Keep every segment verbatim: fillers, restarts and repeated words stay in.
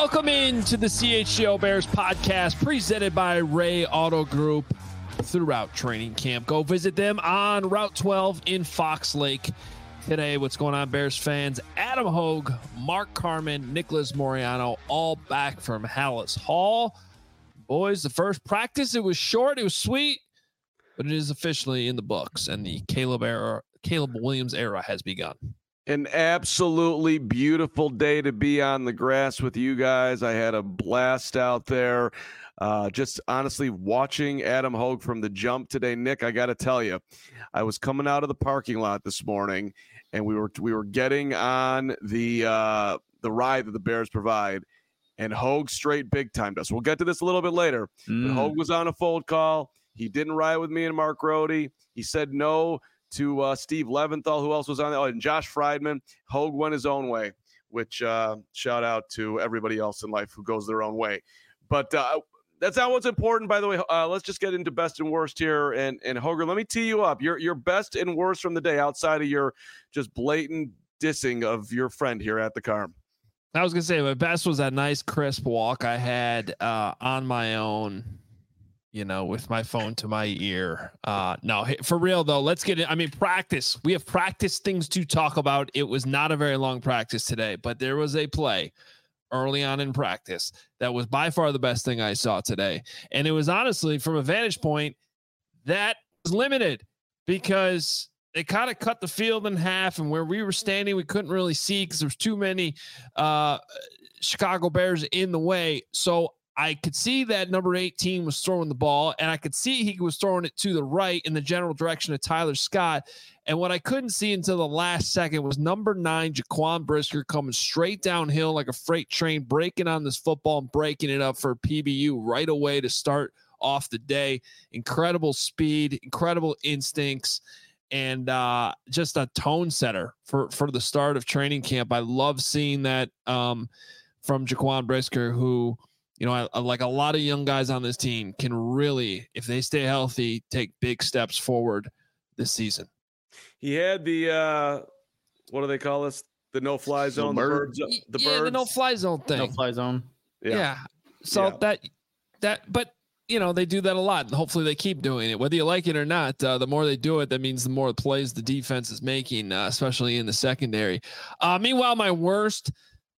Welcome into the C H G O Bears podcast presented by Ray Auto Group throughout training camp. Go visit them on Route twelve in Fox Lake. Today, what's going on, Bears fans? Adam Hogue, Mark Carman, Nicholas Moriano, all back from Hallis Hall. Boys, the first practice, it was short, it was sweet, but it is officially in the books, and the Caleb era, Caleb Williams era has begun. An absolutely beautiful day to be on the grass with you guys. I had a blast out there. Uh, just honestly watching Adam Hogue from the jump today. Nick, I got to tell you, I was coming out of the parking lot this morning, and we were we were getting on the uh, the ride that the Bears provide, and Hogue straight big timed us. We'll get to this a little bit later. Mm. But Hogue was on a fold call. He didn't ride with me and Mark Rohde. He said no to uh, Steve Leventhal, who else was on there, oh, and Josh Friedman. Hogue went his own way, which uh, shout out to everybody else in life who goes their own way. But uh, that's not what's important, by the way. Uh, let's just get into best and worst here. And and Hoger, let me tee you up. Your your best and worst from the day outside of your just blatant dissing of your friend here at the Carm. I was going to say my best was that nice crisp walk I had uh, on my own, you know, with my phone to my ear. Uh, no, for real though, let's get it. I mean, practice. We have practice things to talk about. It was not a very long practice today, but there was a play early on in practice that was by far the best thing I saw today. And it was honestly, from a vantage point, that was limited because they kind of cut the field in half, and where we were standing, we couldn't really see because there's too many uh, Chicago Bears in the way. So I could see that number eighteen was throwing the ball, and I could see he was throwing it to the right in the general direction of Tyler Scott. And what I couldn't see until the last second was number nine, Jaquan Brisker, coming straight downhill like a freight train, breaking on this football and breaking it up for P B U right away to start off the day. Incredible speed, incredible instincts, and uh, just a tone setter for, for the start of training camp. I love seeing that um, from Jaquan Brisker, who, you know, I, I, like a lot of young guys on this team, can really, if they stay healthy, take big steps forward this season. He had the, uh, what do they call this? The no-fly zone, the, bird. the birds. The yeah, birds. the no-fly zone thing. No-fly zone. Yeah. yeah. So yeah. that, that, but, you know, they do that a lot, and hopefully they keep doing it. Whether you like it or not, uh, the more they do it, that means the more plays the defense is making, uh, especially in the secondary. Uh, meanwhile, my worst,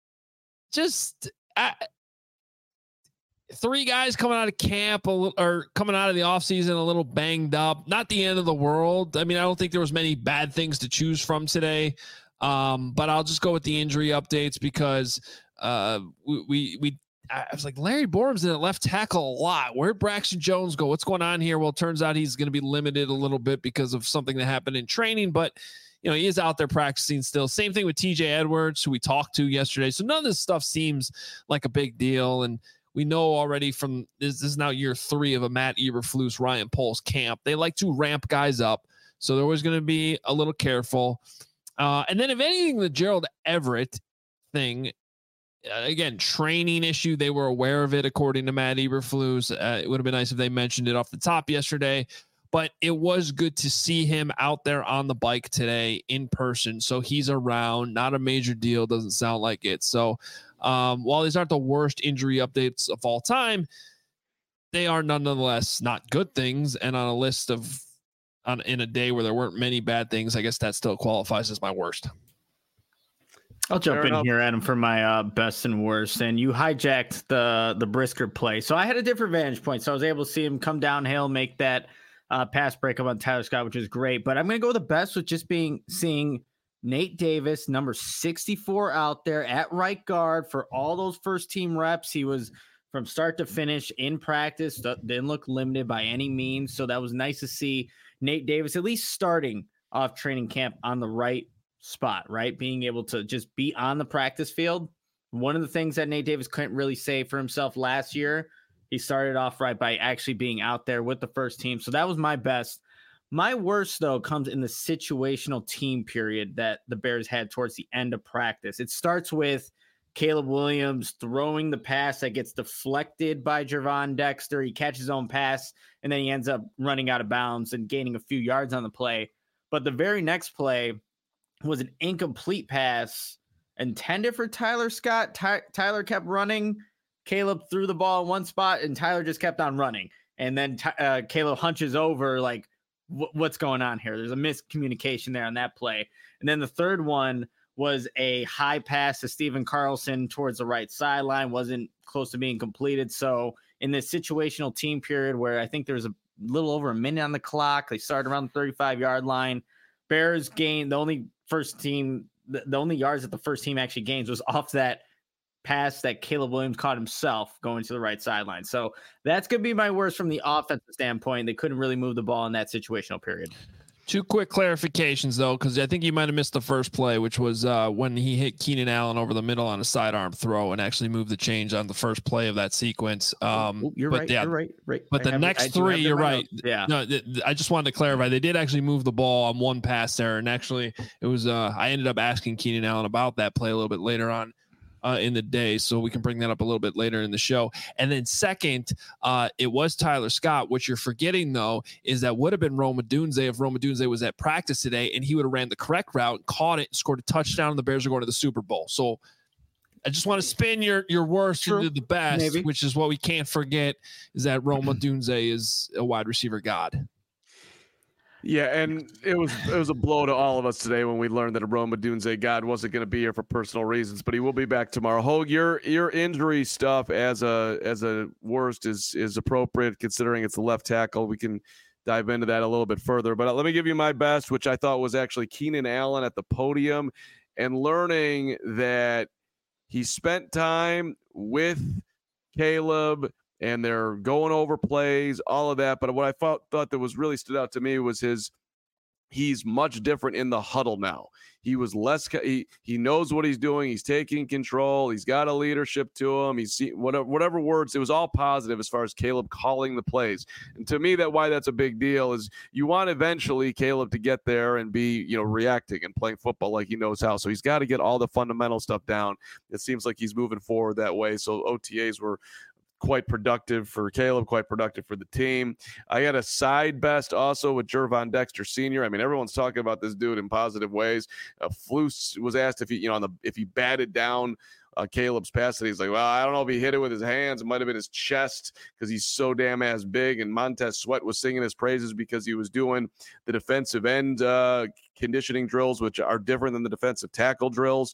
just... I, Three guys coming out of camp a little, or coming out of the offseason a little banged up. Not the end of the world. I mean, I don't think there was many bad things to choose from today. Um, but I'll just go with the injury updates because uh, we, we, we I was like, Larry Borum's in at left tackle a lot. Where'd Braxton Jones go? What's going on here? Well, it turns out he's going to be limited a little bit because of something that happened in training, but you know, he is out there practicing still. Same thing with T J Edwards, who we talked to yesterday. So none of this stuff seems like a big deal. And we know already from this, this is now year three of a Matt Eberflus, Ryan Poles camp. They like to ramp guys up. So they're always going to be a little careful. Uh, and then if anything, the Gerald Everett thing, uh, again, training issue, they were aware of it, according to Matt Eberflus. Uh, it would have been nice if they mentioned it off the top yesterday. But it was good to see him out there on the bike today in person. So he's around, not a major deal. Doesn't sound like it. So um, while these aren't the worst injury updates of all time, they are nonetheless not good things. And on a list of, on in a day where there weren't many bad things, I guess that still qualifies as my worst. I'll jump Fair in enough. here, Adam, for my uh, best and worst. And you hijacked the, the Brisker play. So I had a different vantage point. So I was able to see him come downhill, make that Uh, pass breakup on Tyler Scott, which is great. But I'm going to go with the best with just being seeing Nate Davis, number sixty-four, out there at right guard for all those first team reps. He was from start to finish in practice, didn't look limited by any means. So that was nice to see Nate Davis at least starting off training camp on the right spot, right? Being able to just be on the practice field. One of the things that Nate Davis couldn't really say for himself last year, he started off right by actually being out there with the first team. So that was my best. My worst, though, comes in the situational team period that the Bears had towards the end of practice. It starts with Caleb Williams throwing the pass that gets deflected by Gervon Dexter. He catches his own pass, and then he ends up running out of bounds and gaining a few yards on the play. But the very next play was an incomplete pass, intended for Tyler Scott. Ty- Tyler kept running. Caleb threw the ball in one spot, and Tyler just kept on running. And then uh, Caleb hunches over, like, w- what's going on here? There's a miscommunication there on that play. And then the third one was a high pass to Steven Carlson towards the right sideline, wasn't close to being completed. So in this situational team period where I think there was a little over a minute on the clock, they started around the thirty-five-yard line. Bears gained the only first team, the, the only yards that the first team actually gains was off that pass that Caleb Williams caught himself going to the right sideline. So that's going to be my worst from the offensive standpoint. They couldn't really move the ball in that situational period. Two quick clarifications, though, because I think you might have missed the first play, which was uh, when he hit Keenan Allen over the middle on a sidearm throw and actually moved the chains on the first play of that sequence. Um, oh, you're but right. Yeah, you're right. Right. But the have, next three, you're right. Notes. Yeah. No, th- th- I just wanted to clarify. They did actually move the ball on one pass there, and actually, it was. Uh, I ended up asking Keenan Allen about that play a little bit later on. Uh, in the day, so we can bring that up a little bit later in the show. And then second, uh, it was Tyler Scott. What you're forgetting, though, is that would have been Rome Odunze if Rome Odunze was at practice today, and he would have ran the correct route, caught it, and scored a touchdown, and the Bears are going to the Super Bowl. So I just want to spin your your worst True. into the best, Maybe. Which is what we can't forget, is that Rome Odunze is a wide receiver god. Yeah, and it was it was a blow to all of us today when we learned that Rome Odunze God wasn't going to be here for personal reasons, but he will be back tomorrow. Hogue, your your injury stuff as a as a worst is is appropriate considering it's the left tackle. We can dive into that a little bit further, but let me give you my best, which I thought was actually Keenan Allen at the podium and learning that he spent time with Caleb and they're going over plays, all of that. But what I thought, thought that was really stood out to me was his, he's much different in the huddle now. He was less, he, he knows what he's doing. He's taking control. He's got a leadership to him. He's seen whatever, whatever words, it was all positive as far as Caleb calling the plays. And to me, that why that's a big deal is you want eventually Caleb to get there and be, you know, reacting and playing football like he knows how. So he's got to get all the fundamental stuff down. It seems like he's moving forward that way. So O T As were quite productive for Caleb, quite productive for the team. I had a side best also with Gervon Dexter Senior I mean, everyone's talking about this dude in positive ways. Uh, Flus was asked if he, you know, on the if he batted down uh, Caleb's pass, and he's like, well, I don't know if he hit it with his hands. It might have been his chest because he's so damn ass big. And Montez Sweat was singing his praises because he was doing the defensive end uh, conditioning drills, which are different than the defensive tackle drills.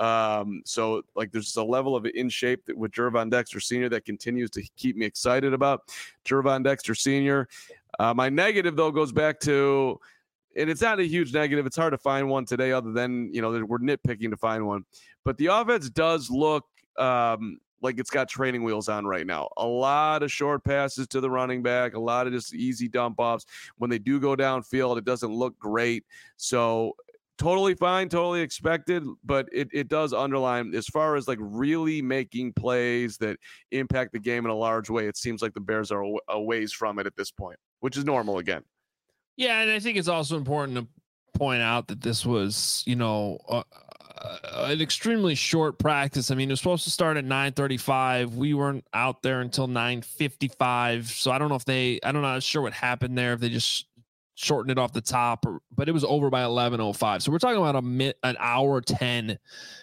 Um, so, like, there's a level of in shape that with Gervon Dexter Senior that continues to keep me excited about Gervon Dexter Senior Uh, my negative, though, goes back to, and it's not a huge negative. It's hard to find one today other than, you know, we're nitpicking to find one. But the offense does look um, like it's got training wheels on right now. A lot of short passes to the running back, a lot of just easy dump offs. When they do go downfield, it doesn't look great. So totally fine, totally expected, but it, it does underline as far as like really making plays that impact the game in a large way. It seems like the Bears are a, a ways from it at this point, which is normal again. Yeah, and I think it's also important to point out that this was, you know, uh, uh, an extremely short practice. I mean, it was supposed to start at nine thirty-five. We weren't out there until nine fifty-five. So I don't know if they, I don't know, I'm not sure what happened there, if they just shortened it off the top, or, but it was over by eleven oh five. So we're talking about a minute, an hour ten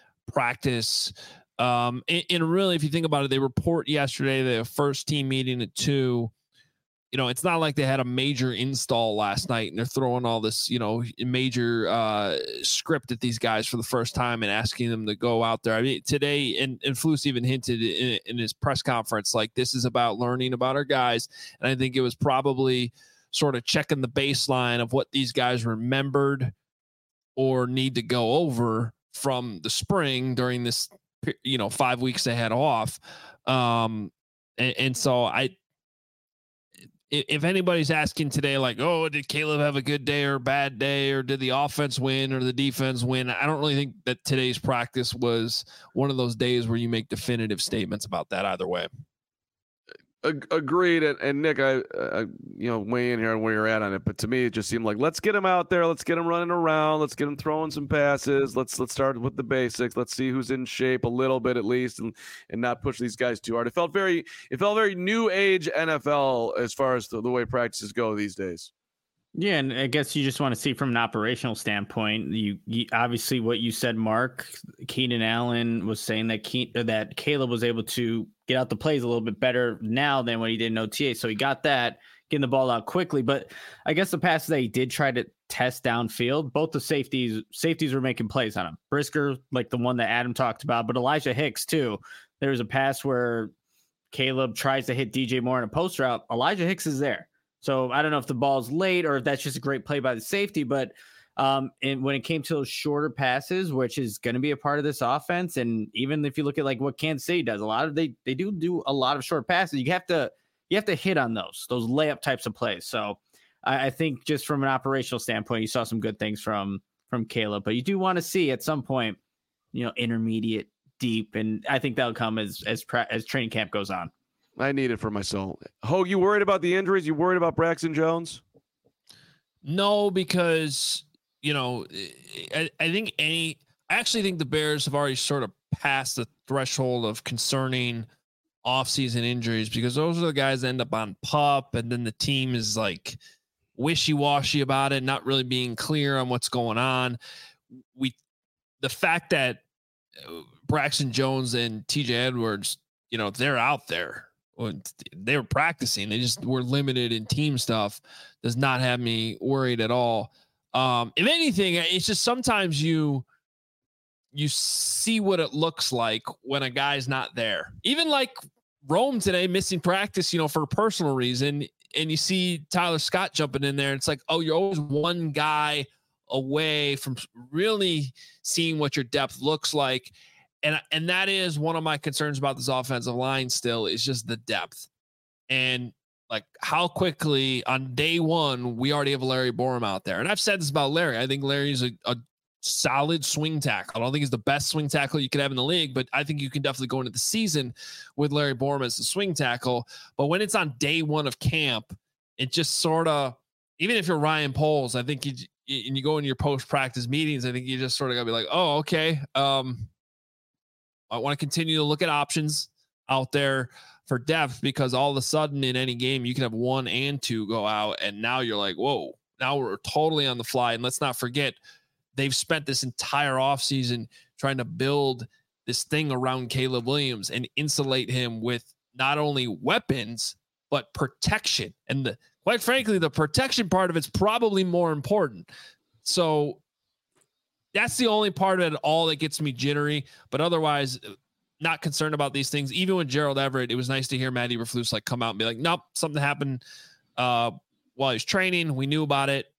practice. Um, and, and really, if you think about it, they report yesterday the first team meeting at two. You know, it's not like they had a major install last night and they're throwing all this, you know, major uh, script at these guys for the first time and asking them to go out there. I mean, today, and, and Flus even hinted in, in his press conference, like, this is about learning about our guys. And I think it was probably sort of checking the baseline of what these guys remembered or need to go over from the spring during this, you know, five weeks they had off. Um, and, and so I, if anybody's asking today, like, oh, did Caleb have a good day or a bad day, or did the offense win or the defense win? I don't really think that today's practice was one of those days where you make definitive statements about that either way. Agreed. And, and Nick, I, I, you know, weigh in here on where you're at on it. But to me, it just seemed like, let's get him out there. Let's get him running around. Let's get him throwing some passes. Let's, let's start with the basics. Let's see who's in shape a little bit at least, and, and not push these guys too hard. It felt very, it felt very new age N F L as far as the, the way practices go these days. Yeah, and I guess you just want to see from an operational standpoint. You, you obviously what you said, Mark. Keenan Allen was saying that Ke- that Caleb was able to get out the plays a little bit better now than when he did in O T A. So he got that, getting the ball out quickly. But I guess the passes that he did try to test downfield, both the safeties safeties were making plays on him. Brisker, like the one that Adam talked about, but Elijah Hicks too. There was a pass where Caleb tries to hit D J Moore in a post route. Elijah Hicks is there. So I don't know if the ball's late or if that's just a great play by the safety, but um, and when it came to those shorter passes, which is going to be a part of this offense, and even if you look at like what Kansas City does, a lot of they they do do a lot of short passes. You have to you have to hit on those those layup types of plays. So I, I think just from an operational standpoint, you saw some good things from from Caleb, but you do want to see at some point, you know, intermediate, deep, and I think that'll come as as as training camp goes on. I need it for my soul. Hogue, you worried about the injuries? You worried about Braxton Jones? No, because, you know, I, I think any, I actually think the Bears have already sort of passed the threshold of concerning offseason injuries, because those are the guys that end up on PUP, and then the team is like wishy-washy about it, not really being clear on what's going on. We, the fact that Braxton Jones and T J Edwards, you know, they're out there. They were practicing. They just were limited in team stuff. Does not have me worried at all. Um, if anything, it's just sometimes you you see what it looks like when a guy's not there. Even like Rome today, missing practice, you know, for a personal reason, and you see Tyler Scott jumping in there. It's like, oh, you're always one guy away from really seeing what your depth looks like. And, and that is one of my concerns about this offensive line still, is just the depth. And like how quickly on day one, we already have Larry Borom out there. And I've said this about Larry. I think Larry's a, a solid swing tackle. I don't think he's the best swing tackle you could have in the league, but I think you can definitely go into the season with Larry Borom as a swing tackle. But when it's on day one of camp, it just sort of, even if you're Ryan Poles, I think you, and you go into your post-practice meetings, I think you just sort of got to be like, oh, okay. Um, I want to continue to look at options out there for depth, because all of a sudden in any game you can have one and two go out, and now you're like, whoa, now we're totally on the fly. And let's not forget, they've spent this entire offseason trying to build this thing around Caleb Williams and insulate him with not only weapons, but protection. And the, quite frankly, the protection part of it's probably more important. So that's the only part of it all that gets me jittery, but otherwise not concerned about these things. Even with Gerald Everett, it was nice to hear Matt Eberflus like come out and be like, nope, something happened uh, while he's training. We knew about it.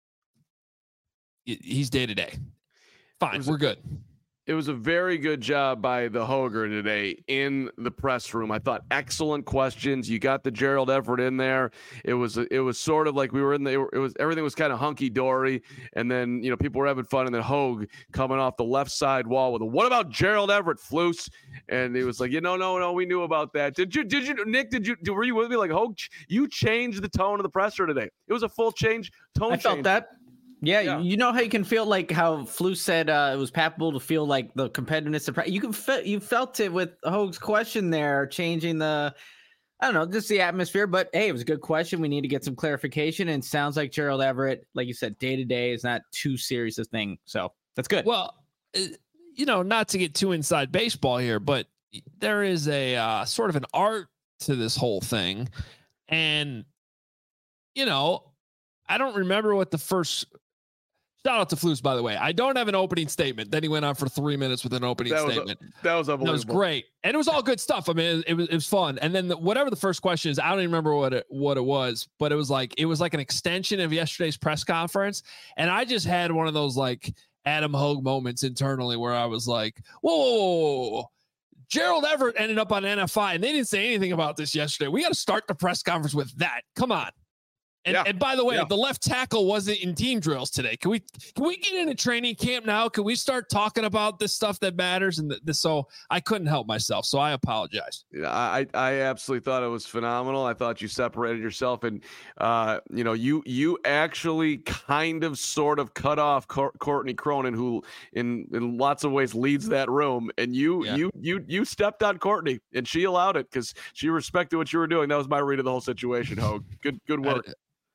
He's day to day. Fine. We're good. It was a very good job by the Hoger today in the press room. I thought excellent questions. You got the Gerald Everett in there. It was it was sort of like we were in the it was everything was kind of hunky dory, and then you know people were having fun, and then Hogue coming off the left side wall with a, what about Gerald Everett, Flus? And he was like, you know, no, no, we knew about that. Did you did you Nick? Did you were you with me? Like Hogue, you changed the tone of the presser today. It was a full change tone. I change. felt that. Yeah, yeah, you know how you can feel like how Flu said uh, it was palpable to feel like the competitiveness of you can feel you felt it with Hogue's question there, changing the I don't know, just the atmosphere. But hey, it was a good question. We need to get some clarification. And it sounds like Gerald Everett, like you said, day to day is not too serious a thing. So that's good. Well, you know, not to get too inside baseball here, but there is a uh, sort of an art to this whole thing, and you know, I don't remember what the first. Shout out to Flus, by the way. I don't have an opening statement. Then he went on for three minutes with an opening that statement. Was a, that was unbelievable. That was great, and it was all good stuff. I mean, it, it was it was fun. And then the, whatever the first question is, I don't even remember what it what it was, but it was like it was like an extension of yesterday's press conference. And I just had one of those like Adam Hogue moments internally where I was like, whoa, whoa, whoa, whoa. Gerald Everett ended up on N F I, and they didn't say anything about this yesterday. We got to start the press conference with that. Come on. And, yeah. and by the way, yeah. the left tackle wasn't in team drills today. Can we can we get into training camp now? Can we start talking about this stuff that matters? And the, the, so I couldn't help myself. So I apologize. Yeah, I I absolutely thought it was phenomenal. I thought you separated yourself, and uh, you know, you you actually kind of sort of cut off Cor- Courtney Cronin, who in in lots of ways leads that room, and you yeah. you you you stepped on Courtney, and she allowed it because she respected what you were doing. That was my read of the whole situation. Hogue, good good work. I,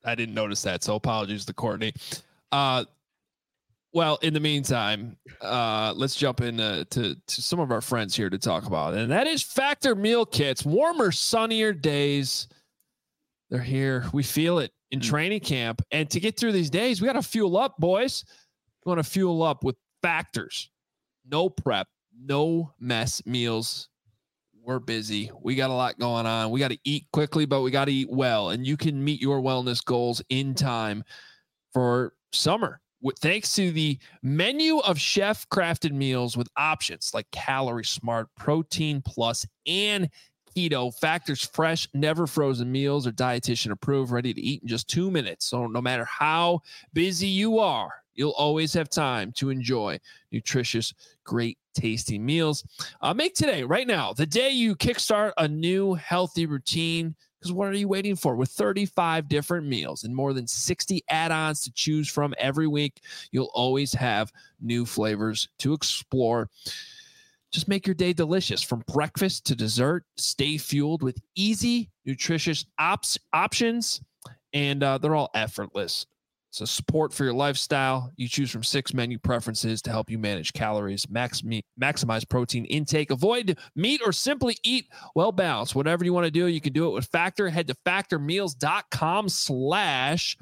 I didn't notice that. So apologies to Courtney. Uh, well, in the meantime, uh, let's jump into to, to some of our friends here to talk about, and that is Factor Meal Kits. Warmer, sunnier days. They're here. We feel it in training camp. And to get through these days, we got to fuel up, boys. We want to fuel up with Factors. No prep, no mess meals. We're busy. We got a lot going on. We got to eat quickly, but we got to eat well. And you can meet your wellness goals in time for summer. With, thanks to the menu of chef-crafted meals with options like Calorie Smart, Protein Plus, and Keto. Factor's fresh, never frozen meals are dietitian approved, ready to eat in just two minutes. So no matter how busy you are, you'll always have time to enjoy nutritious, great tasting meals. Uh, make today, right now, the day you kickstart a new healthy routine. Because what are you waiting for? With thirty-five different meals and more than sixty add-ons to choose from every week, you'll always have new flavors to explore. Just make your day delicious from breakfast to dessert. Stay fueled with easy, nutritious ops, options, and uh, they're all effortless. So support for your lifestyle. You choose from six menu preferences to help you manage calories, max meat, maximize protein intake, avoid meat, or simply eat well balanced. Whatever you want to do, you can do it with Factor. Head to factormeals.com slash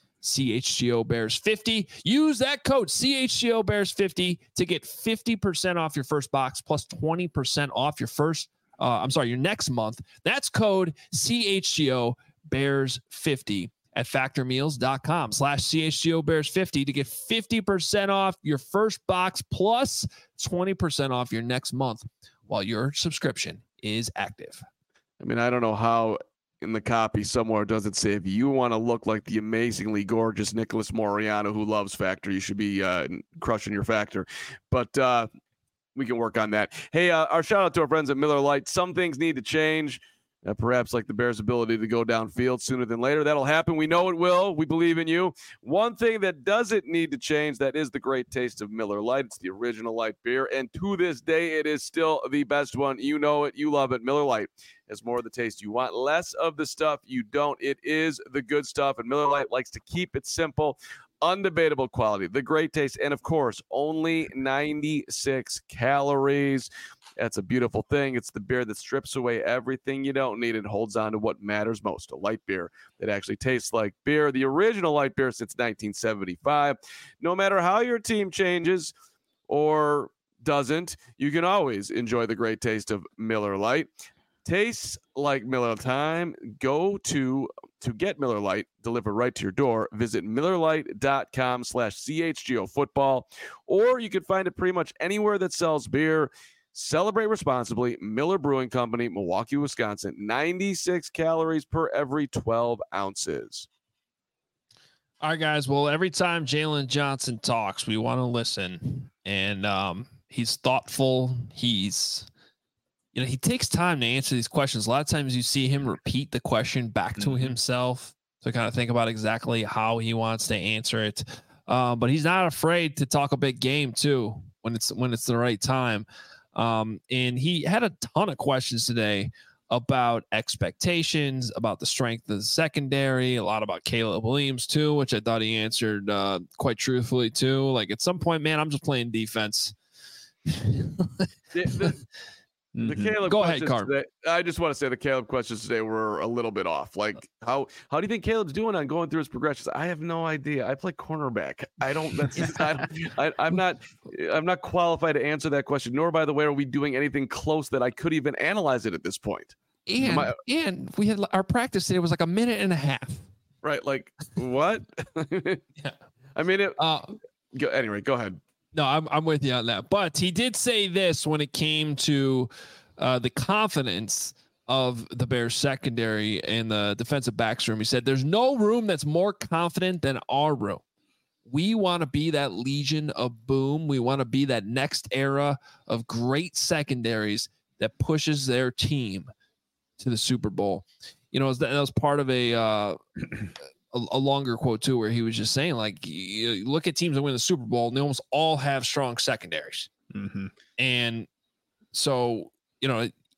CHGO Bears fifty. Use that code C H G O Bears fifty to get fifty percent off your first box plus twenty percent off your first, uh, I'm sorry, your next month. That's code C H G O Bears fifty at factormeals.com slash CHGO Bears fifty to get fifty percent off your first box plus twenty percent off your next month while your subscription is active. I mean, I don't know how in the copy somewhere does it say if you want to look like the amazingly gorgeous Nicholas Moriano who loves Factor, you should be uh, crushing your Factor. But uh, we can work on that. Hey, uh, our shout out to our friends at Miller Lite. Some things need to change. Uh, perhaps like the Bears' ability to go downfield sooner than later. That'll happen. We know it will. We believe in you. One thing that doesn't need to change, that is the great taste of Miller Lite. It's the original light beer, and to this day, it is still the best one. You know it. You love it. Miller Lite has more of the taste you want, less of the stuff you don't. It is the good stuff, and Miller Lite likes to keep it simple. Undebatable quality, the great taste, and of course, only ninety-six calories. That's a beautiful thing. It's the beer that strips away everything you don't need and holds on to what matters most, a light beer that actually tastes like beer. The original light beer since nineteen seventy-five. No matter how your team changes or doesn't, you can always enjoy the great taste of Miller Lite. Tastes like Miller time. Go to to get Miller Lite delivered right to your door. Visit MillerLite.com slash CHGO football, or you can find it pretty much anywhere that sells beer. Celebrate responsibly. Miller Brewing Company, Milwaukee, Wisconsin. ninety-six calories per every twelve ounces. All right, guys. Well, every time Jalen Johnson talks, we want to listen. And um, he's thoughtful. He's, you know, he takes time to answer these questions. A lot of times you see him repeat the question back to mm-hmm. himself to kind of think about exactly how he wants to answer it. Uh, but he's not afraid to talk a big game, too, when it's when it's the right time. Um, and he had a ton of questions today about expectations, about the strength of the secondary, a lot about Caleb Williams too, which I thought he answered uh, quite truthfully too. Like at some point, man, I'm just playing defense. the, the, the Caleb Go ahead, Carm. Today, I just want to say the Caleb questions today were a little bit off. Like how how do you think Caleb's doing on going through his progressions? I have no idea. I play cornerback. I don't. That's I don't, I, I'm not. I'm not qualified to answer that question. Nor, by the way, are we doing anything close that I could even analyze it at this point. And I, and we had our practice today was like a minute and a half. Right. Like what? yeah. I mean it. Uh, go, anyway, go ahead. No, I'm I'm with you on that. But he did say this when it came to uh, the confidence of the Bears secondary and the defensive backs room. He said, "There's no room that's more confident than our room. We want to be that Legion of Boom. We want to be that next era of great secondaries that pushes their team to the Super Bowl." You know, that was part of a, uh, a a longer quote too, where he was just saying, like, you look at teams that win the Super Bowl, and they almost all have strong secondaries. Mm-hmm. And so, you know,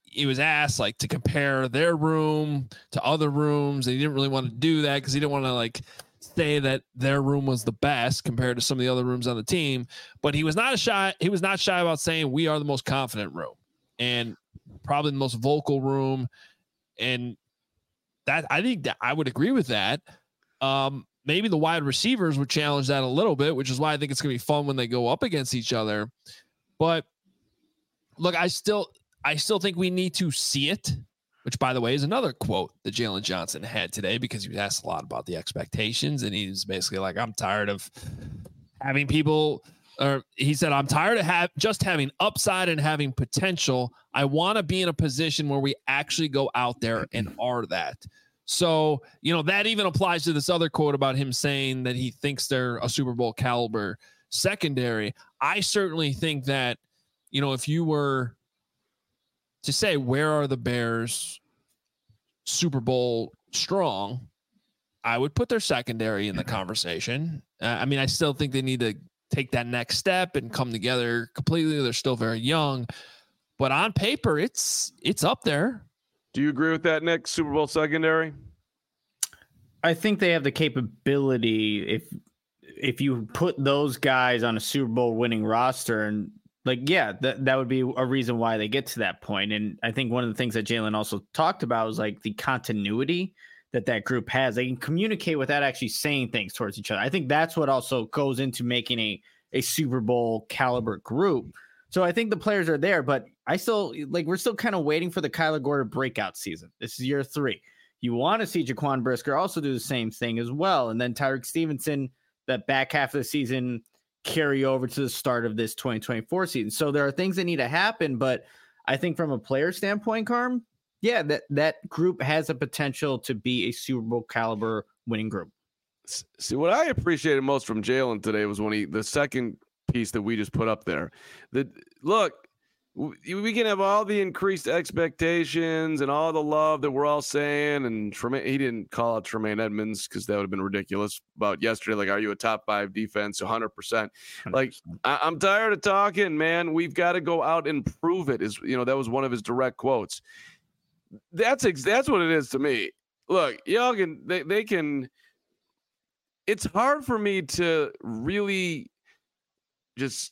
he was asked like to compare their room to other rooms. And he didn't really want to do that because he didn't want to like say that their room was the best compared to some of the other rooms on the team. But he was not a shy. He was not shy about saying we are the most confident room and probably the most vocal room. And that I think that I would agree with that. Um, maybe the wide receivers would challenge that a little bit, which is why I think it's going to be fun when they go up against each other. But look, I still, I still think we need to see it, which by the way is another quote that Jalen Johnson had today, because he was asked a lot about the expectations. And he's basically like, I'm tired of having people, or he said, I'm tired of have just having upside and having potential. I want to be in a position where we actually go out there and are that. So, you know, that even applies to this other quote about him saying that he thinks they're a Super Bowl caliber secondary. I certainly think that, you know, if you were to say, where are the Bears Super Bowl strong, I would put their secondary in the conversation. Uh, I mean, I still think they need to take that next step and come together completely. They're still very young, but on paper, it's, it's up there. Do you agree with that, Nick? Super Bowl secondary? I think they have the capability if if you put those guys on a Super Bowl winning roster, and like, yeah, that, that would be a reason why they get to that point. And I think one of the things that Jalen also talked about was like the continuity that that group has. They can communicate without actually saying things towards each other. I think that's what also goes into making a, a Super Bowl caliber group. So I think the players are there, but I still like, we're still kind of waiting for the Kyler Gordon breakout season. This is year three. You want to see Jaquan Brisker also do the same thing as well. And then Tyreek Stevenson, that back half of the season, carry over to the start of this twenty twenty-four season. So there are things that need to happen, but I think from a player standpoint, Carm, yeah, that, that group has a potential to be a Super Bowl caliber winning group. See, what I appreciated most from Jalen today was when he, the second piece that we just put up there, that look, we can have all the increased expectations and all the love that we're all saying. And Tremaine, he didn't call out Tremaine Edmonds because that would have been ridiculous about yesterday. Like, are you a top five defense? one hundred percent. Like, I, I'm tired of talking, man. We've got to go out and prove it. Is, you know, that was one of his direct quotes. That's ex- that's what it is to me. Look, y'all can, they, they can, it's hard for me to really just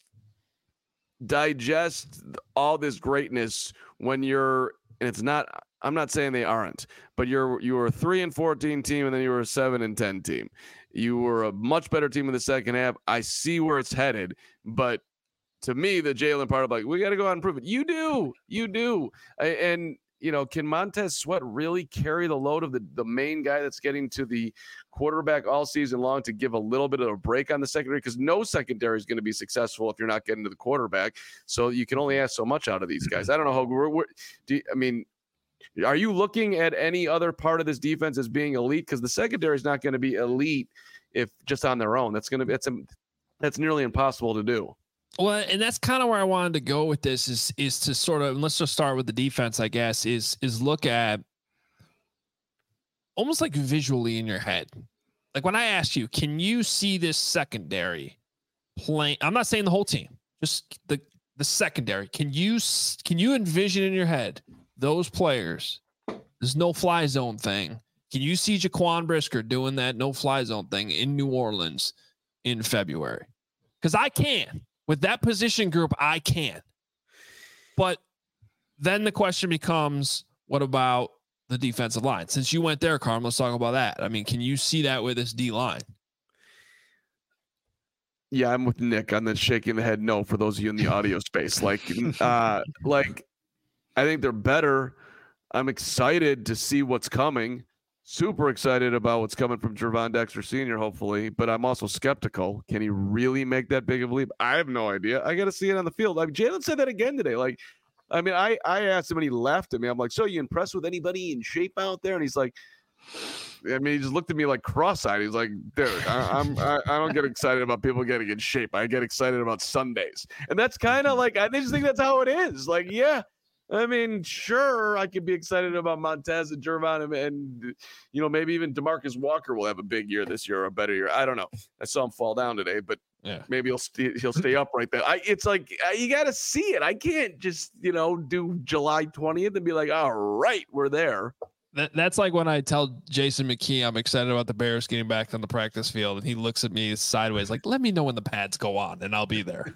digest all this greatness when you're, and it's not, I'm not saying they aren't, but you're, you were a three and fourteen team and then you were a seven and ten team. You were a much better team in the second half. I see where it's headed, but to me, the Jalen part of like, we got to go out and prove it. You do, you do. And, you know, can Montez Sweat really carry the load of the, the main guy that's getting to the quarterback all season long to give a little bit of a break on the secondary? Because no secondary is going to be successful if you're not getting to the quarterback. So you can only ask so much out of these guys. I don't know how we're, we're do you, I mean, are you looking at any other part of this defense as being elite? Because the secondary is not going to be elite if just on their own. That's going to be, that's, a, that's nearly impossible to do. Well, and that's kind of where I wanted to go with this is, is to sort of, and let's just start with the defense, I guess, is, is look at almost like visually in your head. Like when I asked you, can you see this secondary playing? I'm not saying the whole team, just the, the secondary. Can you, can you envision in your head those players? There's no fly zone thing. Can you see Jaquan Brisker doing that no fly zone thing in New Orleans in February? Because I can. With that position group, I can. But then the question becomes, what about the defensive line? Since you went there, Carm, let's talk about that. I mean, can you see that with this D line? Yeah, I'm with Nick on the shaking the head no for those of you in the audio space. Like, uh, like I think they're better. I'm excited to see what's coming. Super excited about what's coming from Gervon Dexter Senior, hopefully, but I'm also skeptical. Can he really make that big of a leap? I have no idea. I got to see it on the field. I mean, Jalen said that again today. Like, I mean, I, I asked him when he left at me, I'm like, so you impressed with anybody in shape out there? And he's like, I mean, he just looked at me like cross-eyed. He's like, dude, I, I'm, I, I don't get excited about people getting in shape. I get excited about Sundays. And that's kind of like, I just think that's how it is. Like, yeah. I mean, sure, I could be excited about Montez and Gervon and, and, you know, maybe even DeMarcus Walker will have a big year this year or a better year. I don't know. I saw him fall down today, but Yeah. Maybe he'll st- he'll stay upright there. I it's like uh, you got to see it. I can't just you know do July twentieth and be like, all right, we're there. That, that's like when I tell Jason McKee I'm excited about the Bears getting back on the practice field, and he looks at me sideways like, let me know when the pads go on, and I'll be there.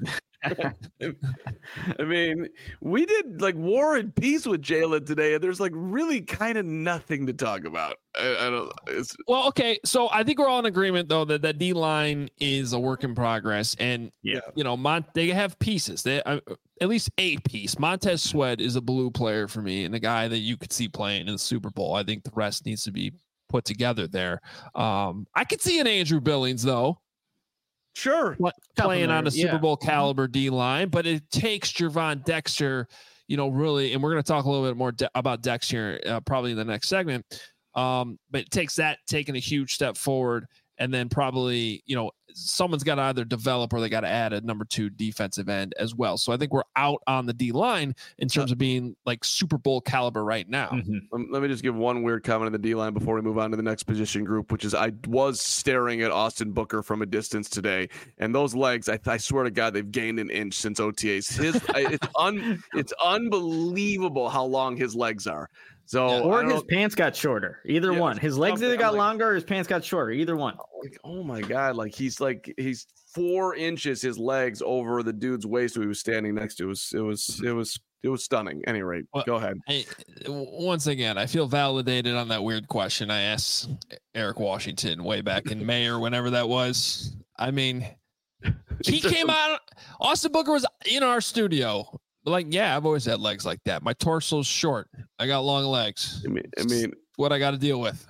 I mean, we did like War and Peace with Jalen today, and there's like really kind of nothing to talk about. I, I don't. It's, well, okay, so I think we're all in agreement though that that D line is a work in progress, and Yeah. you know, Mont they have pieces. They uh, at least a piece. Montez Sweat is a blue player for me, and a guy that you could see playing in the Super Bowl. I think the rest needs to be put together there. Um, I could see an Andrew Billings though. Sure. What, playing on a Super yeah. Bowl caliber D line, but it takes Gervon Dexter, you know, really, and we're going to talk a little bit more de- about Dex here, uh, probably in the next segment. Um, but it takes that taking a huge step forward, and then probably, you know, someone's got to either develop or they got to add a number two defensive end as well. So I think we're out on the D line in terms of being like Super Bowl caliber right now. Mm-hmm. Um, let me just give one weird comment on the D line before we move on to the next position group, which is I was staring at Austin Booker from a distance today, and those legs, I, I swear to God, they've gained an inch since O T As. His, I, it's un, it's unbelievable how long his legs are. So, Yeah. Or I his pants got shorter. Either Yeah, one. His legs either got like, longer or his pants got shorter. Either one. Like, oh my God! Like he's like he's four inches his legs over the dude's waist who he was standing next to. It was it was it was it was stunning. Any rate, Well, go ahead. I, once again, I feel validated on that weird question I asked Eric Washington way back in May or whenever that was. I mean, he came out. Austin Booker was in our studio. Like, yeah, I've always had legs like that. My torso's short. I got long legs. I mean, I mean, what I got to deal with.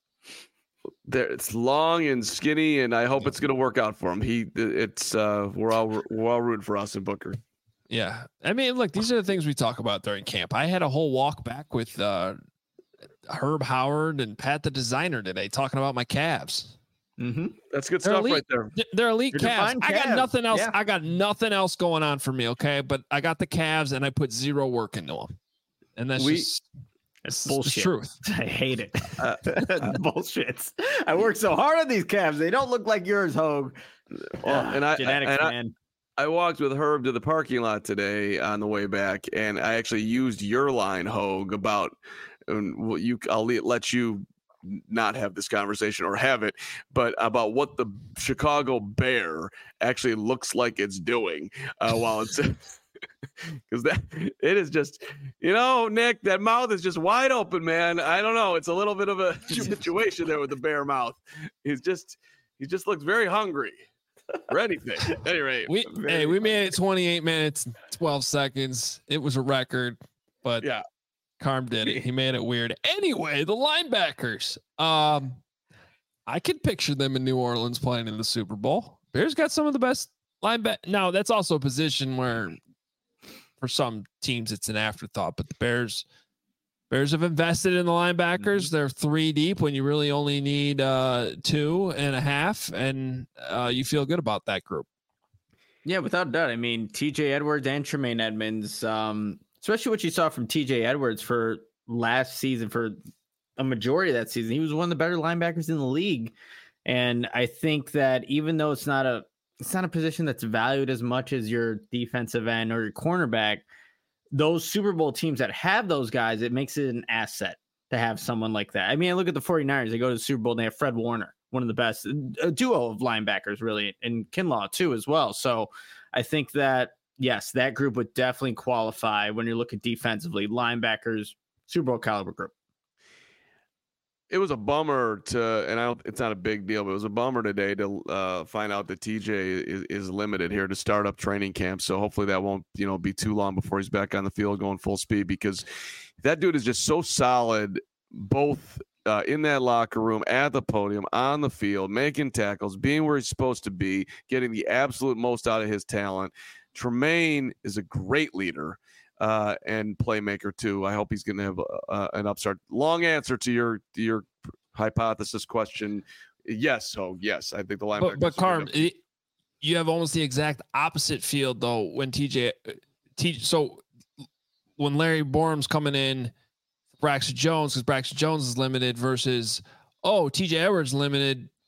there it's long and skinny, and I hope it's gonna work out for him. He, it's uh, we're all we're all rooting for Austin Booker. Yeah, I mean, look, these are the things we talk about during camp. I had a whole walk back with uh, Herb Howard and Pat the designer today, talking about my calves. Mm-hmm. That's good They're stuff elite. right there. They're elite Your calves. defined I got calves. nothing else. Yeah. I got nothing else going on for me. Okay, but I got the calves, and I put zero work into them, and that's We- just It's the bullshit. truth. I hate it. Uh, Bullshit. I work so hard on these calves. They don't look like yours, Hogue. Well, and I- genetics, and I- man. I walked with Herb to the parking lot today on the way back, and I actually used your line, Hogue, about and well, you. I'll le- let you not have this conversation or have it, but about what the Chicago Bear actually looks like it's doing uh, while it's because that it is just, you know, Nick, that mouth is just wide open, man. I don't know. It's a little bit of a situation there with the bear mouth. He's just he just looks very hungry. For anything. At any rate, We very hey, we funny. made it twenty-eight minutes, twelve seconds. It was a record, but Yeah. Carm did it. He made it weird. Anyway, the linebackers. Um, I could picture them in New Orleans playing in the Super Bowl. Bears got some of the best lineback. Now that's also a position where, for some teams, it's an afterthought. But the Bears, Bears have invested in the linebackers. They're three deep when you really only need uh, two and a half, and uh, you feel good about that group. Yeah, without a doubt. I mean, T J Edwards and Tremaine Edmonds, um, especially what you saw from T J Edwards for last season, for a majority of that season, he was one of the better linebackers in the league. And I think that even though it's not a it's not a position that's valued as much as your defensive end or your cornerback, those Super Bowl teams that have those guys, it makes it an asset to have someone like that. I mean, look at the 49ers. They go to the Super Bowl and they have Fred Warner, one of the best, a duo of linebackers, really, and Kinlaw too as well. So I think that, yes, that group would definitely qualify when you're looking defensively, linebackers, Super Bowl caliber group. It was a bummer to, and I don't, it's not a big deal, but it was a bummer today to uh, find out that T J is, is limited here to start up training camp. So hopefully that won't, you know, be too long before he's back on the field going full speed, because that dude is just so solid, both uh, in that locker room, at the podium, on the field, making tackles, being where he's supposed to be, getting the absolute most out of his talent. Tremaine is a great leader. Uh, and playmaker too. I hope he's going to have uh, an upstart. Long answer to your to your hypothesis question. Yes, so yes, I think the linebacker. But, but Carm, it, you have almost the exact opposite field though. When T J, T, so when Larry Borum's coming in, Braxton Jones, because Braxton Jones is limited versus oh T J Edwards limited.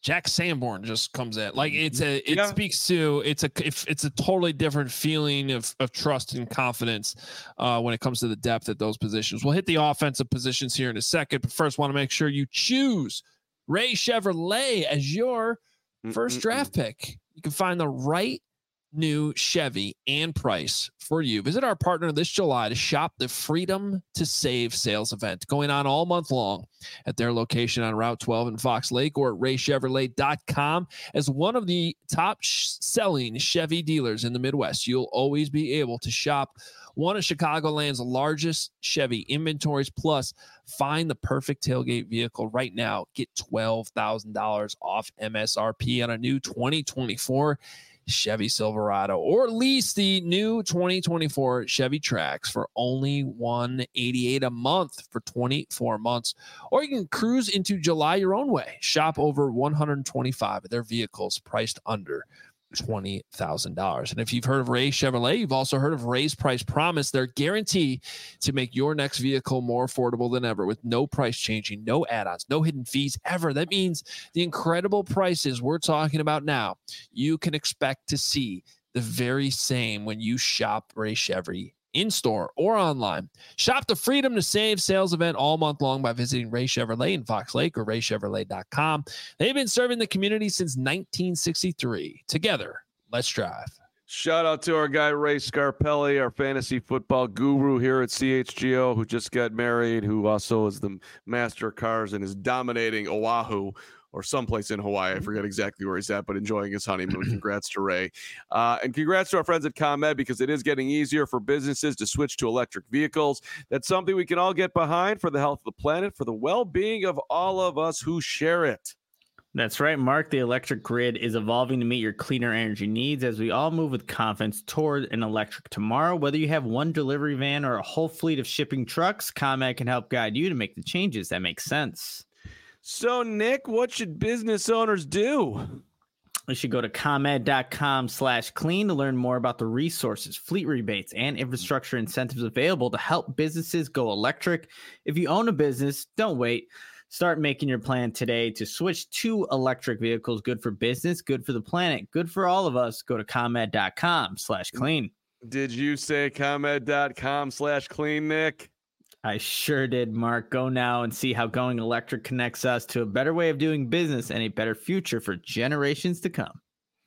Jack Sanborn just comes in. Like it's a, it Yeah. speaks to, it's a, if it's a totally different feeling of, of trust and confidence uh, when it comes to the depth at those positions. We'll hit the offensive positions here in a second, but first want to make sure you choose Ray Chevrolet as your first draft pick. You can find the right new Chevy and price for you. Visit our partner this July to shop the Freedom to Save sales event going on all month long at their location on Route twelve in Fox Lake or at ray chevrolet dot com. As one of the top sh- selling Chevy dealers in the Midwest, you'll always be able to shop one of Chicagoland's largest Chevy inventories. Plus, find the perfect tailgate vehicle right now. Get twelve thousand dollars off M S R P on a new twenty twenty-four Chevy Silverado, or lease the new twenty twenty-four Chevy Trax for only one hundred eighty-eight dollars a month for twenty-four months. Or you can cruise into July your own way. Shop over one hundred twenty-five of their vehicles priced under twenty thousand dollars. And if you've heard of Ray Chevrolet, you've also heard of Ray's Price Promise. Their guarantee to make your next vehicle more affordable than ever with no price changing, no add-ons, no hidden fees ever. That means the incredible prices we're talking about now, you can expect to see the very same when you shop Ray Chevy in-store or online. Shop the Freedom to Save sales event all month long by visiting Ray Chevrolet in Fox Lake or ray chevrolet dot com. They've been serving the community since nineteen sixty-three. Together, let's drive. Shout out to our guy, Ray Scarpelli, our fantasy football guru here at C H G O, who just got married, who also is the master of cars and is dominating Oahu or someplace in Hawaii. I forget exactly where he's at, but enjoying his honeymoon. Congrats to Ray. Uh, and congrats to our friends at ComEd, because it is getting easier for businesses to switch to electric vehicles. That's something we can all get behind for the health of the planet, for the well-being of all of us who share it. That's right, Mark. The electric grid is evolving to meet your cleaner energy needs as we all move with confidence toward an electric tomorrow. Whether you have one delivery van or a whole fleet of shipping trucks, ComEd can help guide you to make the changes that make sense. So, Nick, what should business owners do? You should go to ComEd.com slash clean to learn more about the resources, fleet rebates, and infrastructure incentives available to help businesses go electric. If you own a business, don't wait. Start making your plan today to switch to electric vehicles. Good for business, good for the planet, good for all of us. Go to ComEd.com slash clean. Did you say ComEd.com slash clean, Nick? I sure did, Mark. Go now and see how going electric connects us to a better way of doing business and a better future for generations to come.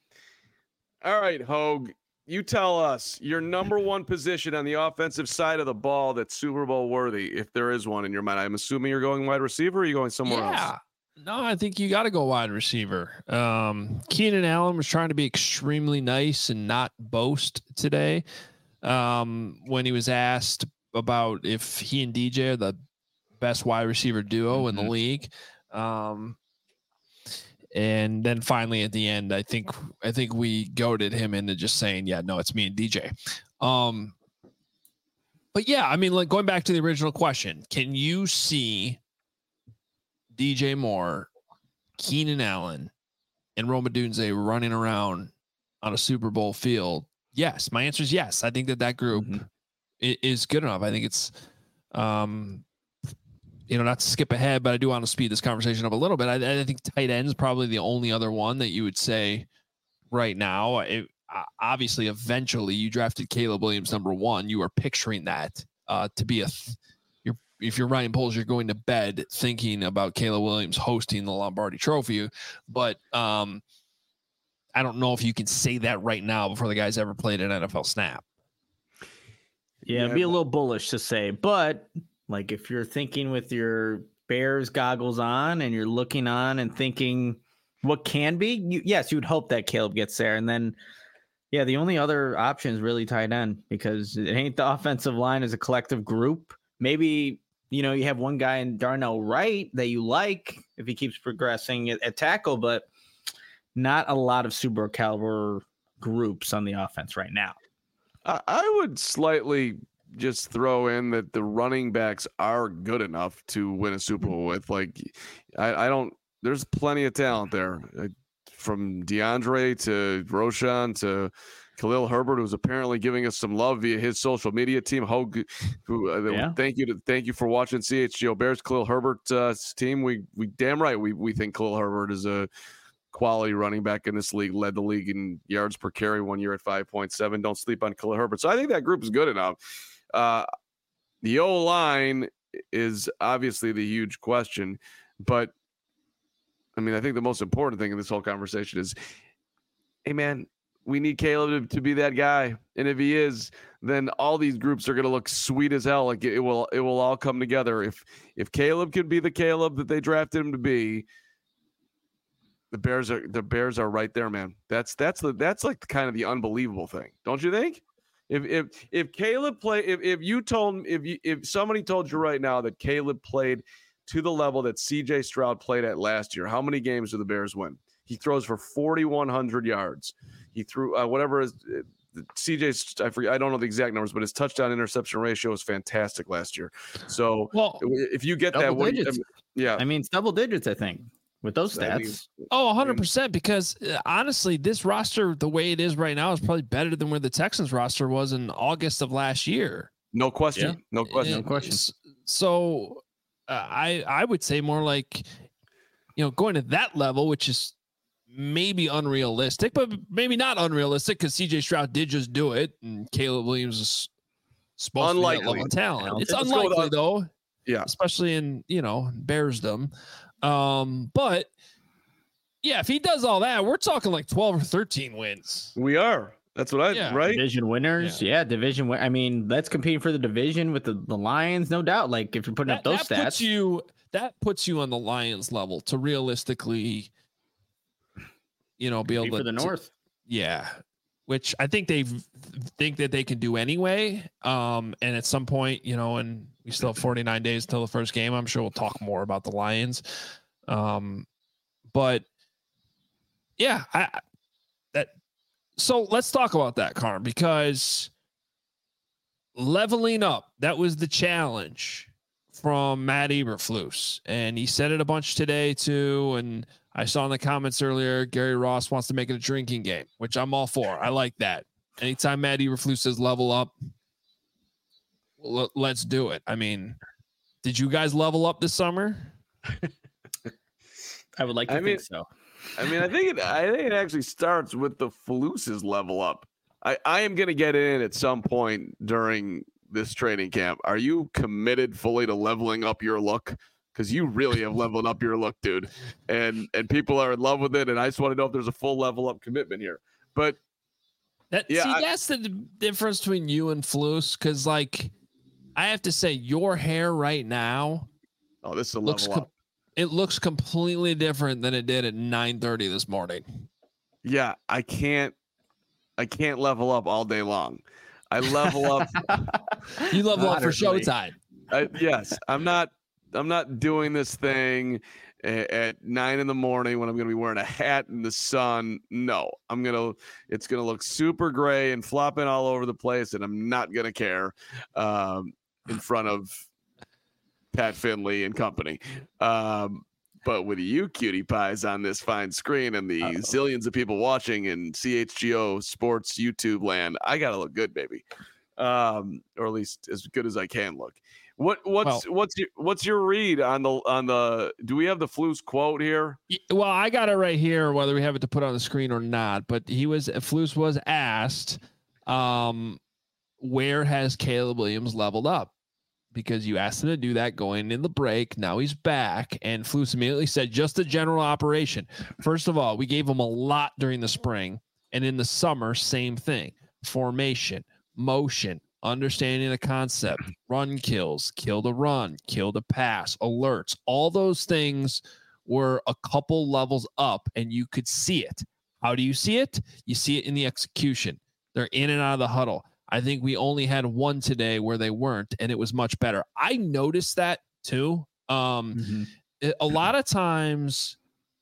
All right, Hogue, you tell us your number one position on the offensive side of the ball that's Super Bowl worthy, if there is one in your mind. I'm assuming you're going wide receiver, or are you going somewhere yeah. else? No, I think you got to go wide receiver. Um, Keenan Allen was trying to be extremely nice and not boast today um, when he was asked about if he and D J are the best wide receiver duo mm-hmm. in the league. Um, and then finally at the end, I think, I think we goaded him into just saying, yeah, no, it's me and D J. Um, but yeah, I mean, like going back to the original question, can you see D J Moore, Keenan Allen, and Rome Odunze running around on a Super Bowl field? Yes. My answer is yes. I think that that group mm-hmm. is good enough. I think it's, um, you know, not to skip ahead, but I do want to speed this conversation up a little bit. I, I think tight end is probably the only other one that you would say right now. It, uh, obviously, eventually you drafted Caleb Williams number one. You are picturing that uh, to be a, th- you're, if you're Ryan Poles, you're going to bed thinking about Caleb Williams hosting the Lombardi Trophy. But um, I don't know if you can say that right now before the guy's ever played an N F L snap. Yeah, it'd be a little bullish to say, but like if you're thinking with your Bears goggles on and you're looking on and thinking what can be, you, yes, you would hope that Caleb gets there. And then, yeah, the only other option is really tight end, because it ain't the offensive line as a collective group. Maybe, you know, you have one guy in Darnell Wright that you like if he keeps progressing at, at tackle, but not a lot of super caliber groups on the offense right now. I, I would slightly just throw in that the running backs are good enough to win a Super Bowl with. Like, I, I don't, there's plenty of talent there, uh, from DeAndre to Roshan to Khalil Herbert, who's apparently giving us some love via his social media team. Hogue, who uh, yeah. thank you to thank you for watching C H G O Bears. Khalil Herbert's uh, team. We we damn right we we think Khalil Herbert is a quality running back in this league, led the league in yards per carry one year at five point seven. Don't sleep on Khalil Herbert. So I think that group is good enough. Uh, the O-line is obviously the huge question, but I mean, I think the most important thing in this whole conversation is, hey man, we need Caleb to, to be that guy. And if he is, then all these groups are going to look sweet as hell. Like it will, it will all come together. If, if Caleb can be the Caleb that they drafted him to be, the Bears are, the Bears are right there, man. That's, that's the, that's like kind of the unbelievable thing. Don't you think? If, if, if Caleb play, if, if you told, if you, if somebody told you right now that Caleb played to the level that C J Stroud played at last year, how many games do the Bears win? He throws for forty-one hundred yards. He threw uh, whatever is uh, C J's. I forget. I don't know the exact numbers, but his touchdown interception ratio was fantastic last year. So well, if you get that, what, I mean, yeah, I mean, it's double digits. I think with those stats. I mean, oh, one hundred percent. Because uh, honestly, this roster, the way it is right now, is probably better than where the Texans roster was in August of last year. No question. Yeah. No question. No question. So uh, I I would say more like, you know, going to that level, which is maybe unrealistic, but maybe not unrealistic because C J Stroud did just do it, and Caleb Williams is supposed unlikely. to be that level of talent. It's Let's unlikely though, yeah, especially in you know Bearsdom. Um, but yeah, if he does all that, we're talking like twelve or thirteen wins. We are. That's what I yeah. right. Division winners, yeah, yeah division. Win- I mean, that's competing for the division with the, the Lions, no doubt. Like if you're putting that, up those that stats, puts you that puts you on the Lions level to realistically. You know, be able for to the North, yeah, which I think they think that they can do anyway. Um, and at some point, you know, and we still have forty-nine days till the first game. I'm sure we'll talk more about the Lions. Um, but yeah, I that. So let's talk about that, Carm, because leveling up, that was the challenge from Matt Eberflus, and he said it a bunch today too, and I saw in the comments earlier, Gary Ross wants to make it a drinking game, which I'm all for. I like that. Anytime Matt Eberflus says level up, l- let's do it. I mean, did you guys level up this summer? I would like to I think mean, so. I mean, I think it. I think it actually starts with the Flus's level up. I, I am going to get in at some point during this training camp. Are you committed fully to leveling up your look? Because you really have leveled up your look, dude, and and people are in love with it. And I just want to know if there's a full level up commitment here. But that yeah, see, I, that's the difference between you and Flus. Because like, I have to say, your hair right now, oh, this is a looks level com- up. It looks completely different than it did at nine thirty this morning. Yeah, I can't, I can't level up all day long. I level up. You level up for Moderately. showtime. I, yes, I'm not. I'm not doing this thing at, at nine in the morning when I'm going to be wearing a hat in the sun. No, I'm going to, it's going to look super gray and flopping all over the place. And I'm not going to care um, in front of Pat Finley and company. Um, but with you cutie pies on this fine screen and the Uh-oh. zillions of people watching in C H G O sports YouTube land, I got to look good, baby. Um, or at least as good as I can look. What what's well, what's your what's your read on the on the do we have the Flus quote here? Well, I got it right here, whether we have it to put on the screen or not. But he was Flus was asked, um, where has Caleb Williams leveled up? Because you asked him to do that going in the break. Now he's back, and Flus immediately said, just a general operation. First of all, we gave him a lot during the spring, and in the summer, same thing: formation, motion. Understanding the concept, run kills, kill the run, kill the pass, alerts, all those things were a couple levels up and you could see it. How do you see it? You see it in the execution. They're in and out of the huddle. I think we only had one today where they weren't, and it was much better. I noticed that too. Um, mm-hmm. it, a lot of times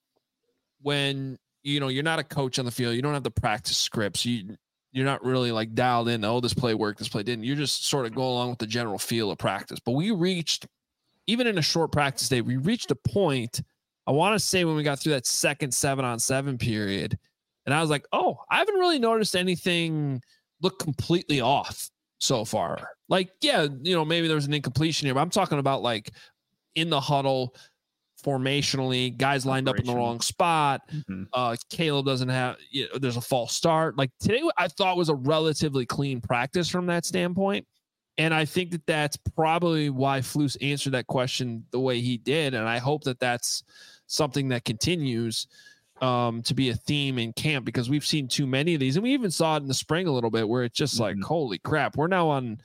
when, you know, you're not a coach on the field, you don't have the practice scripts. You, You're not really like dialed in. Oh, this play worked. This play didn't. You're just sort of go along with the general feel of practice. But we reached, even in a short practice day, we reached a point, I want to say when we got through that second seven on seven period. And I was like, oh, I haven't really noticed anything look completely off so far. Like, yeah, you know, maybe there was an incompletion here, but I'm talking about like in the huddle, formationally, guys lined up in the wrong spot. Mm-hmm. Uh, Caleb doesn't have, you know, there's a false start. Like today, I thought was a relatively clean practice from that standpoint. And I think that that's probably why Flus answered that question the way he did. And I hope that that's something that continues um, to be a theme in camp, because we've seen too many of these. And we even saw it in the spring a little bit where it's just mm-hmm. like, holy crap, we're now on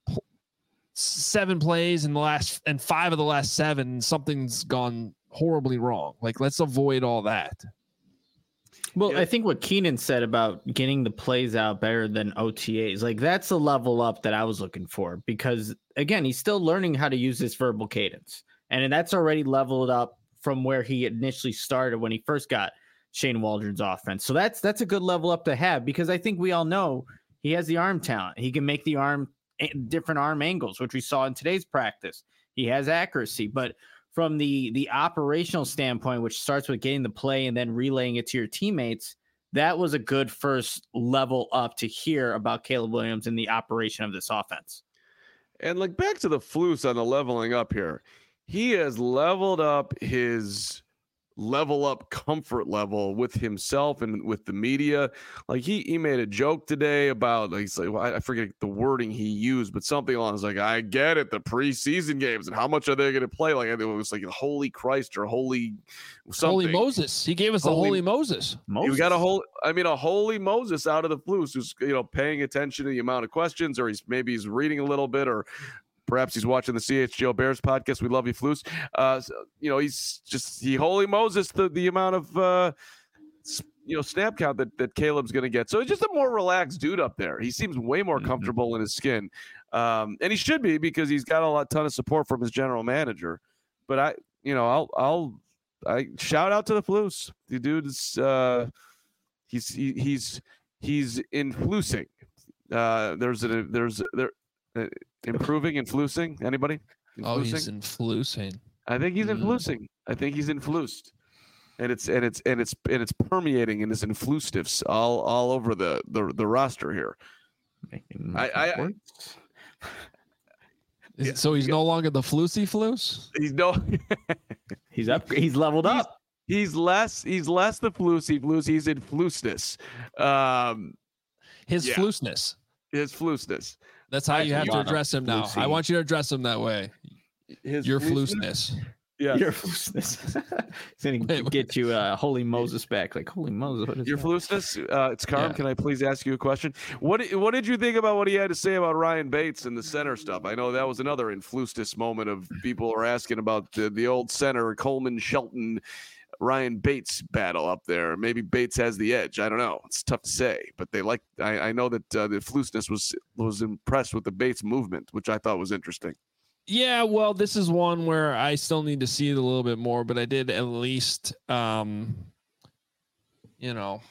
seven plays in the last and five of the last seven. Something's gone horribly wrong. Like, let's avoid all that. Well, yeah. I think what Keenan said about getting the plays out better than O T As, like that's a level up that I was looking for, because again, he's still learning how to use this verbal cadence, and that's already leveled up from where he initially started when he first got Shane Waldron's offense. So that's that's a good level up to have, because I think we all know he has the arm talent. He can make the arm different arm angles, which we saw in today's practice. He has accuracy, but from the the operational standpoint, which starts with getting the play and then relaying it to your teammates, that was a good first level up to hear about Caleb Williams and the operation of this offense. And like back to the Flus on the leveling up here, he has leveled up his level up comfort level with himself and with the media. Like he, he made a joke today about, like, he's like, well, I forget the wording he used, but something along like, I get it, the preseason games and how much are they going to play? Like, I think it was like holy Christ or holy something. Holy Moses. He gave us holy, the holy Moses. Moses. You got a whole, I mean, a holy Moses out of the Flus who's, you know, paying attention to the amount of questions, or he's maybe he's reading a little bit, or perhaps he's watching the C H G O Bears podcast. We love you, Flus. Uh, so, you know, he's just, he holy Moses, the, the amount of, uh, you know, snap count that, that Caleb's going to get. So he's just a more relaxed dude up there. He seems way more comfortable mm-hmm. in his skin. Um, and he should be, because he's got a lot, ton of support from his general manager. But I, you know, I'll, I'll, I shout out to the Flus. The dude is, uh, he's, he, he's, he's influsing. Uh, there's a, there's, there, uh, improving and flusing. Anybody? Influsing? Oh, he's influsing. I think he's mm. influsing. I think he's inflused, and it's and it's and it's and it's permeating in his influstives all all over the the, the roster here. I, I, I yeah, so he's yeah. no longer the flusy flus. He's no. he's up. He's leveled he's, up. He's less. He's less the flusy flus. He's in flusness. Um, his yeah. flusness. His flusness. That's how you have to address him now. I want you to address him that way. His Your flusness. Yeah. Your flusness. He's going to get you uh, Holy Moses back. Like, Holy Moses. What is Your that? flusness? Uh, it's Carm. Yeah. Can I please ask you a question? What What did you think about what he had to say about Ryan Bates and the center stuff? I know that was another influstus moment of people are asking about the, the old center, Coleman Shelton, Ryan Bates battle up there. Maybe Bates has the edge. I don't know. It's tough to say, but they like. I, I know that uh, the Flusness was was impressed with the Bates movement, which I thought was interesting. Yeah, well, this is one where I still need to see it a little bit more, but I did at least, um, you know,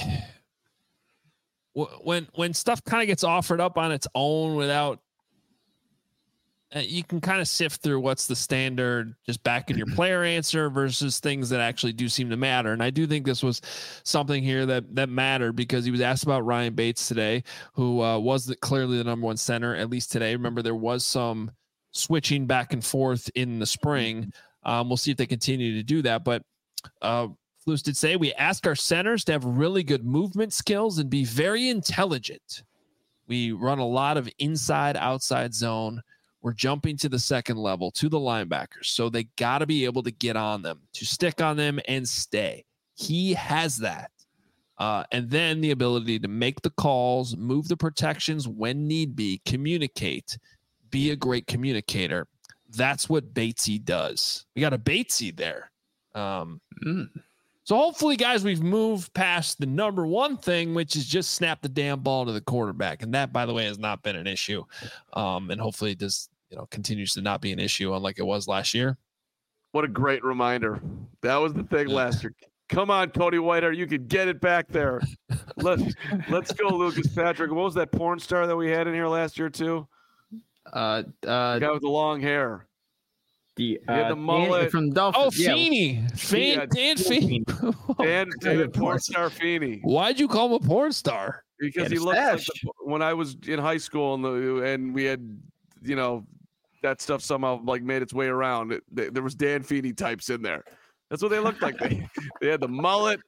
when when stuff kind of gets offered up on its own without. Uh, you can kind of sift through what's the standard, just backing your player answer versus things that actually do seem to matter. And I do think this was something here that that mattered, because he was asked about Ryan Bates today, who uh, was the, clearly the number one center, at least today. Remember, there was some switching back and forth in the spring. Um, we'll see if they continue to do that. But uh, Flus did say, we ask our centers to have really good movement skills and be very intelligent. We run a lot of inside, outside zone. We're jumping to the second level, to the linebackers. So they got to be able to get on them, to stick on them and stay. He has that. Uh, and then the ability to make the calls, move the protections when need be, communicate, be a great communicator. That's what Batesy does. We got a Batesy there. Um, mm. So hopefully, guys, we've moved past the number one thing, which is just snap the damn ball to the quarterback. And that, by the way, has not been an issue. Um, and hopefully it does, you know, continues to not be an issue unlike it was last year. What a great reminder. That was the thing last year. Come on, Cody Whitehair. You could get it back there. Let's let's go, Lucas Patrick. What was that porn star that we had in here last year, too? Uh, uh, the guy with the long hair. The, uh, he had the mullet. Dan, from Dolphins. Oh, Feeney. Yeah. Feen, Yeah, Dan Feeney. Dan, Dan porn star Feeney. Why'd you call him a porn star? Because he looked like the, when I was in high school and, the, and we had, you know, that stuff somehow like made its way around. It, they, there was Dan Feeney types in there. That's what they looked like. They they had the mullet,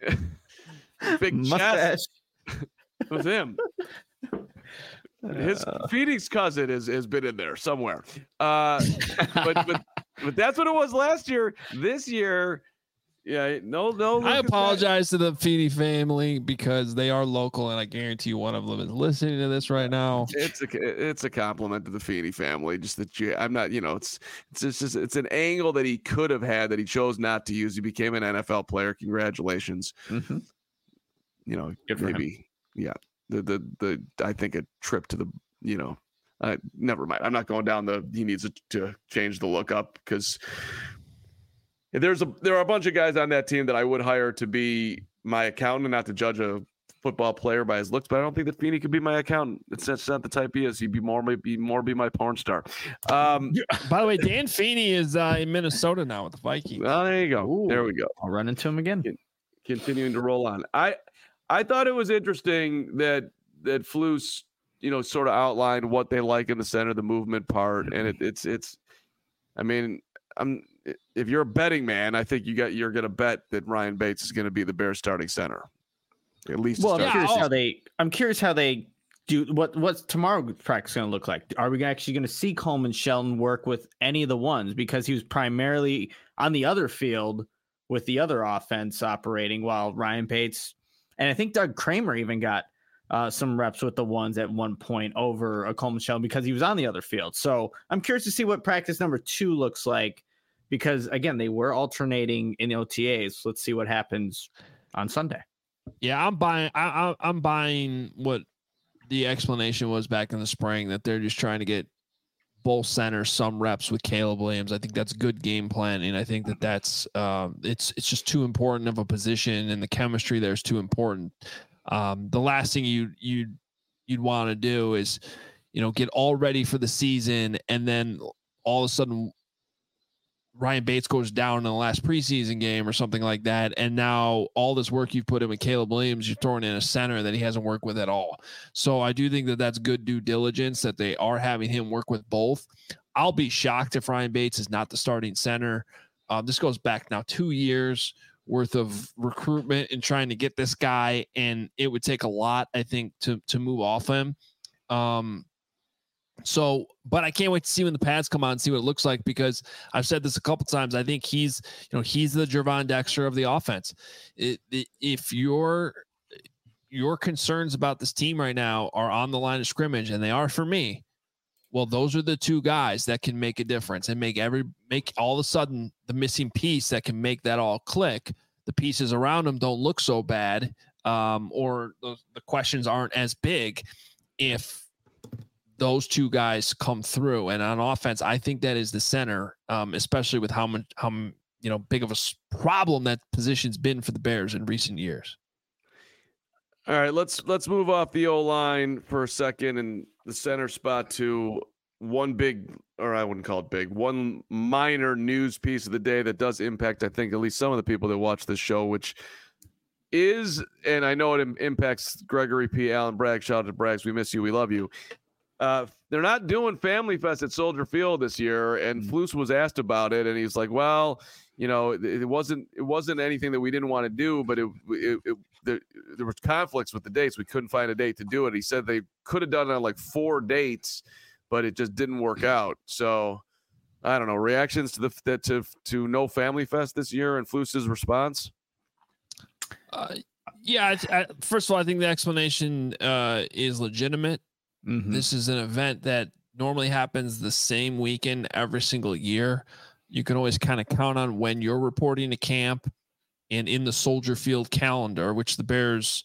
big mustache. chest. It was him. His uh, Phoenix cousin has, has been in there somewhere. Uh, but, but but that's what it was last year. This year, yeah, no, no. I apologize to the Feedy family because they are local, and I guarantee you one of them is listening to this right now. It's a it's a compliment to the Feedy family. Just that you, I'm not, you know, it's it's just, it's, it's an angle that he could have had that he chose not to use. He became an N F L player. Congratulations. Mm-hmm. You know, Good for maybe, him. yeah. The the the I think a trip to the, you know, uh, never mind. I'm not going down the he needs to change the look up because there's a there are a bunch of guys on that team that I would hire to be my accountant, not to judge a football player by his looks, but I don't think that Feeney could be my accountant. It's that's not the type he is. He'd be more maybe more be my porn star. Um, by the way, Dan Feeney is uh, in Minnesota now with the Vikings. Well, there you go. Ooh, there we go. I'll run into him again. Continuing to roll on. I. I thought it was interesting that that Flus, you know, sort of outlined what they like in the center, the movement part, and it, it's it's. I mean, I'm if you're a betting man, I think you got you're going to bet that Ryan Bates is going to be the Bears starting center, at least. Well, I'm yeah, curious I'll, how they. I'm curious how they do. What what's tomorrow's practice going to look like? Are we actually going to see Coleman Shelton work with any of the ones because he was primarily on the other field with the other offense operating while Ryan Bates. And I think Doug Kramer even got uh, some reps with the ones at one point over a Coleman Shelton because he was on the other field. So I'm curious to see what practice number two looks like because, again, they were alternating in the O T As. Let's see what happens on Sunday. Yeah, I'm buying. I, I, I'm buying what the explanation was back in the spring that they're just trying to get both centers some reps with Caleb Williams. I think that's good game planning. I think that that's um, it's it's just too important of a position, and the chemistry there is too important. Um, the last thing you you you'd want to do is, you know, get all ready for the season, and then all of a sudden Ryan Bates goes down in the last preseason game or something like that, and now all this work you've put in with Caleb Williams, you're throwing in a center that he hasn't worked with at all. So I do think that that's good due diligence that they are having him work with both. I'll be shocked if Ryan Bates is not the starting center. Um, this goes back now two years worth of recruitment and trying to get this guy, and it would take a lot, I think, to to move off him. Um, So, but I can't wait to see when the pads come on and see what it looks like because I've said this a couple times. I think he's, you know, he's the Gervon Dexter of the offense. It, it, if your your concerns about this team right now are on the line of scrimmage, and they are for me, well, those are the two guys that can make a difference and make every make all of a sudden the missing piece that can make that all click. The pieces around them don't look so bad, um, or the, the questions aren't as big if those two guys come through. And on offense, I think that is the center, um, especially with how much, how, you know, big of a problem that position's been for the Bears in recent years. All right, let's, let's move off the O-line for a second and the center spot to one big, or I wouldn't call it big, one minor news piece of the day that does impact, I think, at least some of the people that watch this show, which is, and I know it impacts Gregory P. Allen Bragg. Shout out to Braggs. We miss you. We love you. Uh, they're not doing Family Fest at Soldier Field this year, and mm-hmm. Flus was asked about it, and he's like, "Well, you know, it, it wasn't it wasn't anything that we didn't want to do, but it, it, it there, there was conflicts with the dates. We couldn't find a date to do it." He said they could have done it on like four dates, but it just didn't work out. So I don't know. Reactions to the to to no Family Fest this year and Flus's response. Uh, yeah. I, I, first of all, I think the explanation uh, is legitimate. Mm-hmm. This is an event that normally happens the same weekend every single year. You can always kind of count on when you're reporting to camp and in the Soldier Field calendar, which the Bears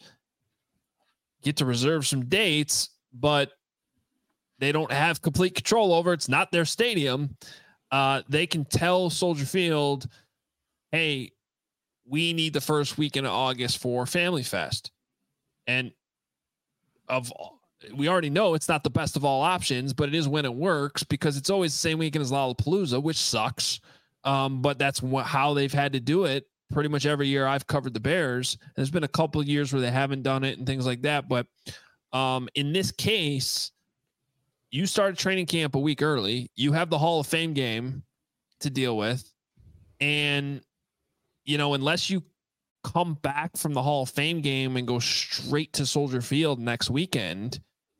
get to reserve some dates, but they don't have complete control over. It's not their stadium. Uh, they can tell Soldier Field, hey, we need the first weekend of August for Family Fest. And of we already know it's not the best of all options, but it is when it works because it's always the same weekend as Lollapalooza, which sucks. Um, but that's wh- how they've had to do it pretty much every year I've covered the Bears. There's been a couple of years where they haven't done it and things like that. But um, in this case, you started training camp a week early. You have the Hall of Fame game to deal with. And, you know, unless you come back from the Hall of Fame game and go straight to Soldier Field next weekend,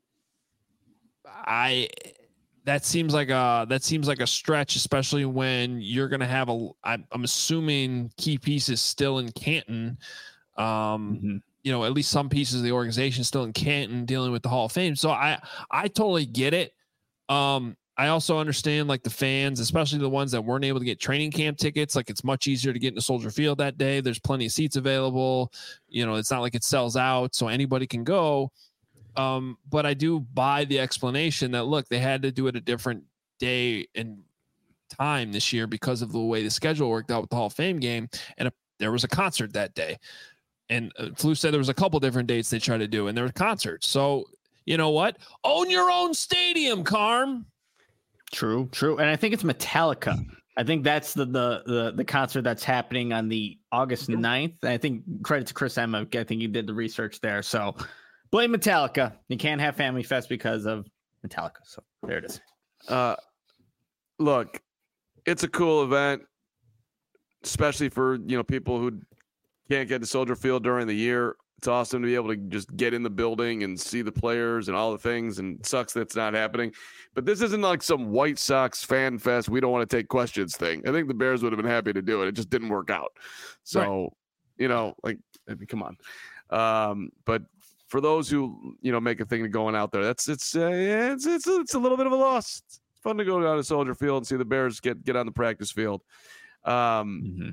I that seems like a that seems like a stretch, especially when you're going to have a I'm, I'm assuming key pieces still in Canton. Um, mm-hmm. You know, at least some pieces of the organization still in Canton dealing with the Hall of Fame. So I, I totally get it. Um, I also understand like the fans, especially the ones that weren't able to get training camp tickets. Like it's much easier to get into Soldier Field that day. There's plenty of seats available. You know, it's not like it sells out, so anybody can go. Um, but I do buy the explanation that look, they had to do it a different day and time this year because of the way the schedule worked out with the Hall of Fame game. And a, there was a concert that day. And uh, Flu said there was a couple different dates they tried to do, and there were concerts. So you know what? Own your own stadium, Carm. True, true. And I think it's Metallica. I think that's the the the, the concert that's happening on the August ninth. I think credit to Chris Emma. I think he did the research there. So blame Metallica. You can't have Family Fest because of Metallica. So there it is. Uh, look, it's a cool event, especially for, you know, people who can't get to Soldier Field during the year. It's awesome to be able to just get in the building and see the players and all the things, and it sucks that it's not happening. But this isn't like some White Sox fan fest, we don't want to take questions thing. I think the Bears would have been happy to do it. It just didn't work out. So, right. you know, like, I mean, come on. Um, but for those who, you know, make a thing of going out there, that's it's uh, yeah, it's, it's it's a little bit of a loss. It's fun to go down to Soldier Field and see the Bears get get on the practice field. Um, mm-hmm.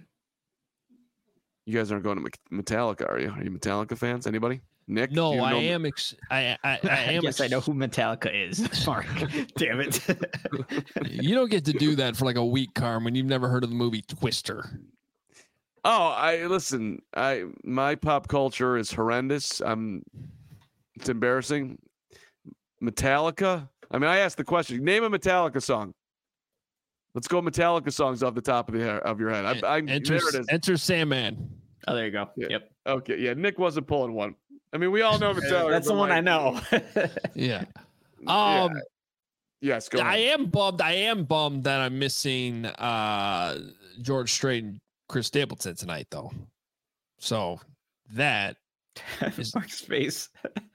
You guys aren't going to Metallica, are you? Are you Metallica fans? Anybody? Nick? No, you know I am. Ex- I, I, I am. Yes, ex- I know who Metallica is. Mark, damn it! You don't get to do that for like a week, Carm, when you've never heard of the movie Twister. Oh, I listen. I my pop culture is horrendous. I'm. It's embarrassing. Metallica. I mean, I asked the question. Name a Metallica song. Let's go Metallica songs off the top of the hair, of your head. I, I, enter, there it is. Enter Sandman. Oh, there you go. Yeah. Yep. Okay. Yeah. Nick wasn't pulling one. I mean, we all know Metallica. That's the one like, I know. yeah. Um. Yeah. Yes. Go I ahead. am bummed. I am bummed that I'm missing uh, George Strait and Chris Stapleton tonight, though. So that is Mark's face.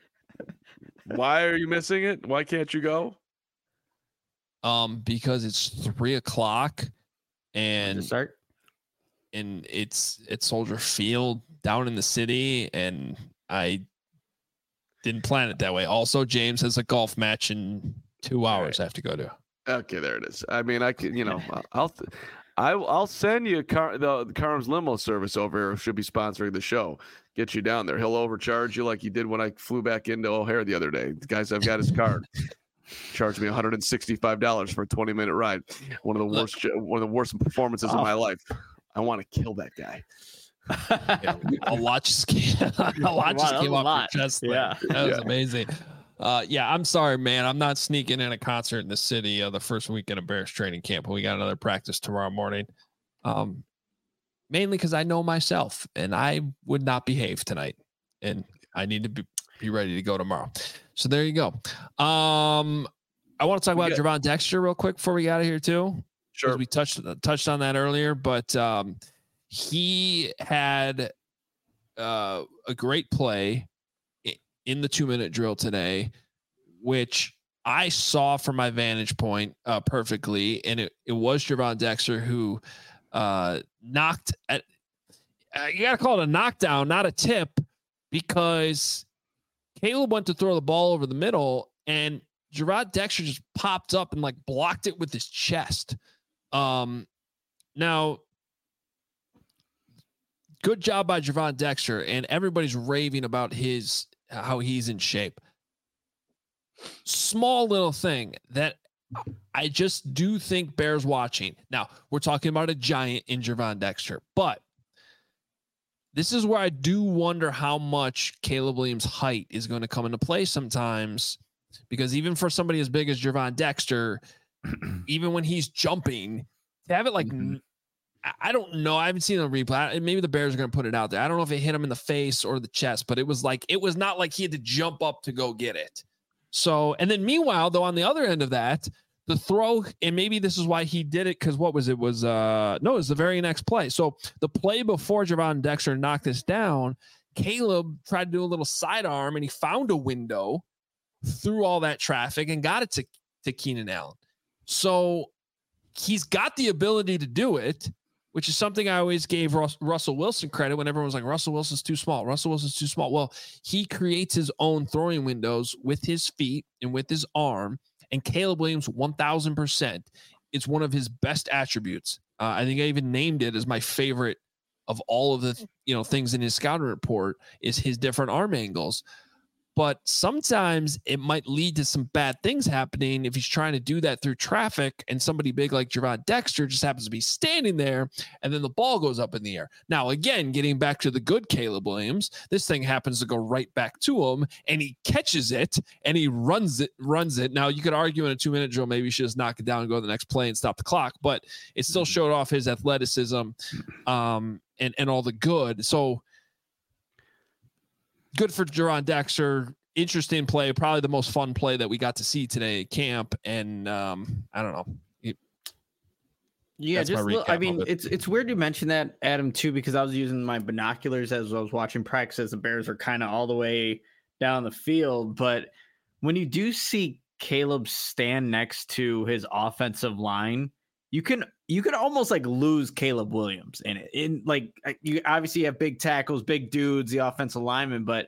Why are you missing it? Why can't you go? Um, because it's three o'clock, and start, and it's it's Soldier Field down in the city, and I didn't plan it that way. Also, James has a golf match in two hours. Right. I have to go to. Okay, there it is. I mean, I can, you know, I'll, I'll, I'll send you car, the, the Carm's limo service over here. Should be sponsoring the show. Get you down there. He'll overcharge you like he did when I flew back into O'Hare the other day. Guys, I've got his card. Charged me one hundred sixty-five dollars for a twenty minute ride. One of the worst, one of the worst performances oh. of my life. I want to kill that guy. Yeah, a lot just came, a lot just came off your chest. Yeah, that was yeah. amazing. Uh, yeah, I'm sorry, man. I'm not sneaking in a concert in the city uh, the first weekend of Bears training camp. We got another practice tomorrow morning. Um, mainly because I know myself, and I would not behave tonight, and I need to be. Be ready to go tomorrow. So there you go. Um, I want to talk about yeah. Gervon Dexter real quick before we get out of here too. Sure. We touched touched on that earlier, but um, he had uh, a great play in the two minute drill today, which I saw from my vantage point uh, perfectly, and it, it was Gervon Dexter who uh, knocked at. Uh, you got to call it a knockdown, not a tip, because Caleb went to throw the ball over the middle, and Gervon Dexter just popped up and like blocked it with his chest. Um, now, good job by Gervon Dexter, and everybody's raving about his how he's in shape. Small little thing that I just do think bears watching. Now, we're talking about a giant in Gervon Dexter, but this is where I do wonder how much Caleb Williams' height is going to come into play sometimes, because even for somebody as big as Gervon Dexter, even when he's jumping, to have it like, mm-hmm. I don't know. I haven't seen the replay. Maybe the Bears are going to put it out there. I don't know if it hit him in the face or the chest, but it was like, it was not like he had to jump up to go get it. So, and then meanwhile, though, on the other end of that, the throw, and maybe this is why he did it, because what was it? Was uh no, it was the very next play. So the play before Gervon Dexter knocked this down, Caleb tried to do a little sidearm, and he found a window through all that traffic and got it to, to Keenan Allen. So he's got the ability to do it, which is something I always gave Rus- Russell Wilson credit when everyone was like, Russell Wilson's too small. Russell Wilson's too small. Well, he creates his own throwing windows with his feet and with his arm. And Caleb Williams, one thousand percent, it's one of his best attributes. Uh, I think I even named it as my favorite of all of the you know things in his scouting report is his different arm angles. But sometimes it might lead to some bad things happening if he's trying to do that through traffic and somebody big like Gervon Dexter just happens to be standing there and then the ball goes up in the air. Now, again, getting back to the good Caleb Williams, this thing happens to go right back to him and he catches it and he runs it, runs it. Now, you could argue in a two-minute drill, maybe he should just knock it down and go to the next play and stop the clock, but it still showed off his athleticism um, and, and all the good. So, good for Gervon Dexter. Interesting play. Probably the most fun play that we got to see today at camp. And um, I don't know. It, yeah, just look, I mean, it. it's it's weird you mention that, Adam, too, because I was using my binoculars as I was watching practice as the Bears are kind of all the way down the field. But when you do see Caleb stand next to his offensive line, you can you can almost like lose Caleb Williams in it. In like you obviously have big tackles, big dudes, the offensive lineman, but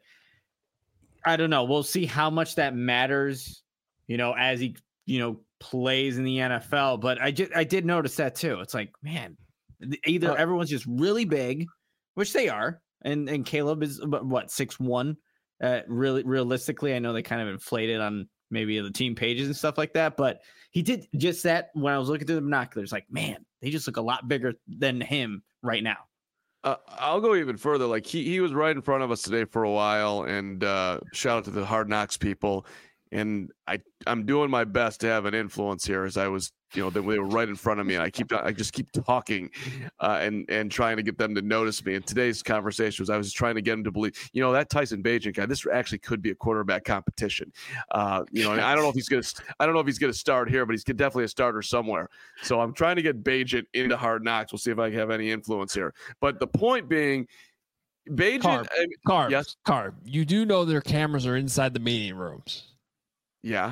I don't know. We'll see how much that matters, you know, as he, you know, plays in the N F L. But I just I did notice that too. It's like, man, either uh, everyone's just really big, which they are, and and Caleb is what six one. Uh, really, realistically, I know they kind of inflated on maybe the team pages and stuff like that, but he did just that when I was looking through the binoculars. Like, man, they just look a lot bigger than him right now. Uh, I'll go even further. Like he he was right in front of us today for a while, and uh, shout out to the Hard Knocks people. And I I'm doing my best to have an influence here, as I was, you know, they were right in front of me, and I keep I just keep talking, uh, and and trying to get them to notice me. And today's conversation was I was trying to get them to believe, you know, that Tyson Bagent guy, this actually could be a quarterback competition. Uh, you know, and I don't know if he's gonna I don't know if he's gonna start here, but he's definitely a starter somewhere. So I'm trying to get Bagent into Hard Knocks. We'll see if I have any influence here. But the point being, Bagent, Carb, I mean, Carb, yes, Carb, you do know their cameras are inside the meeting rooms. Yeah,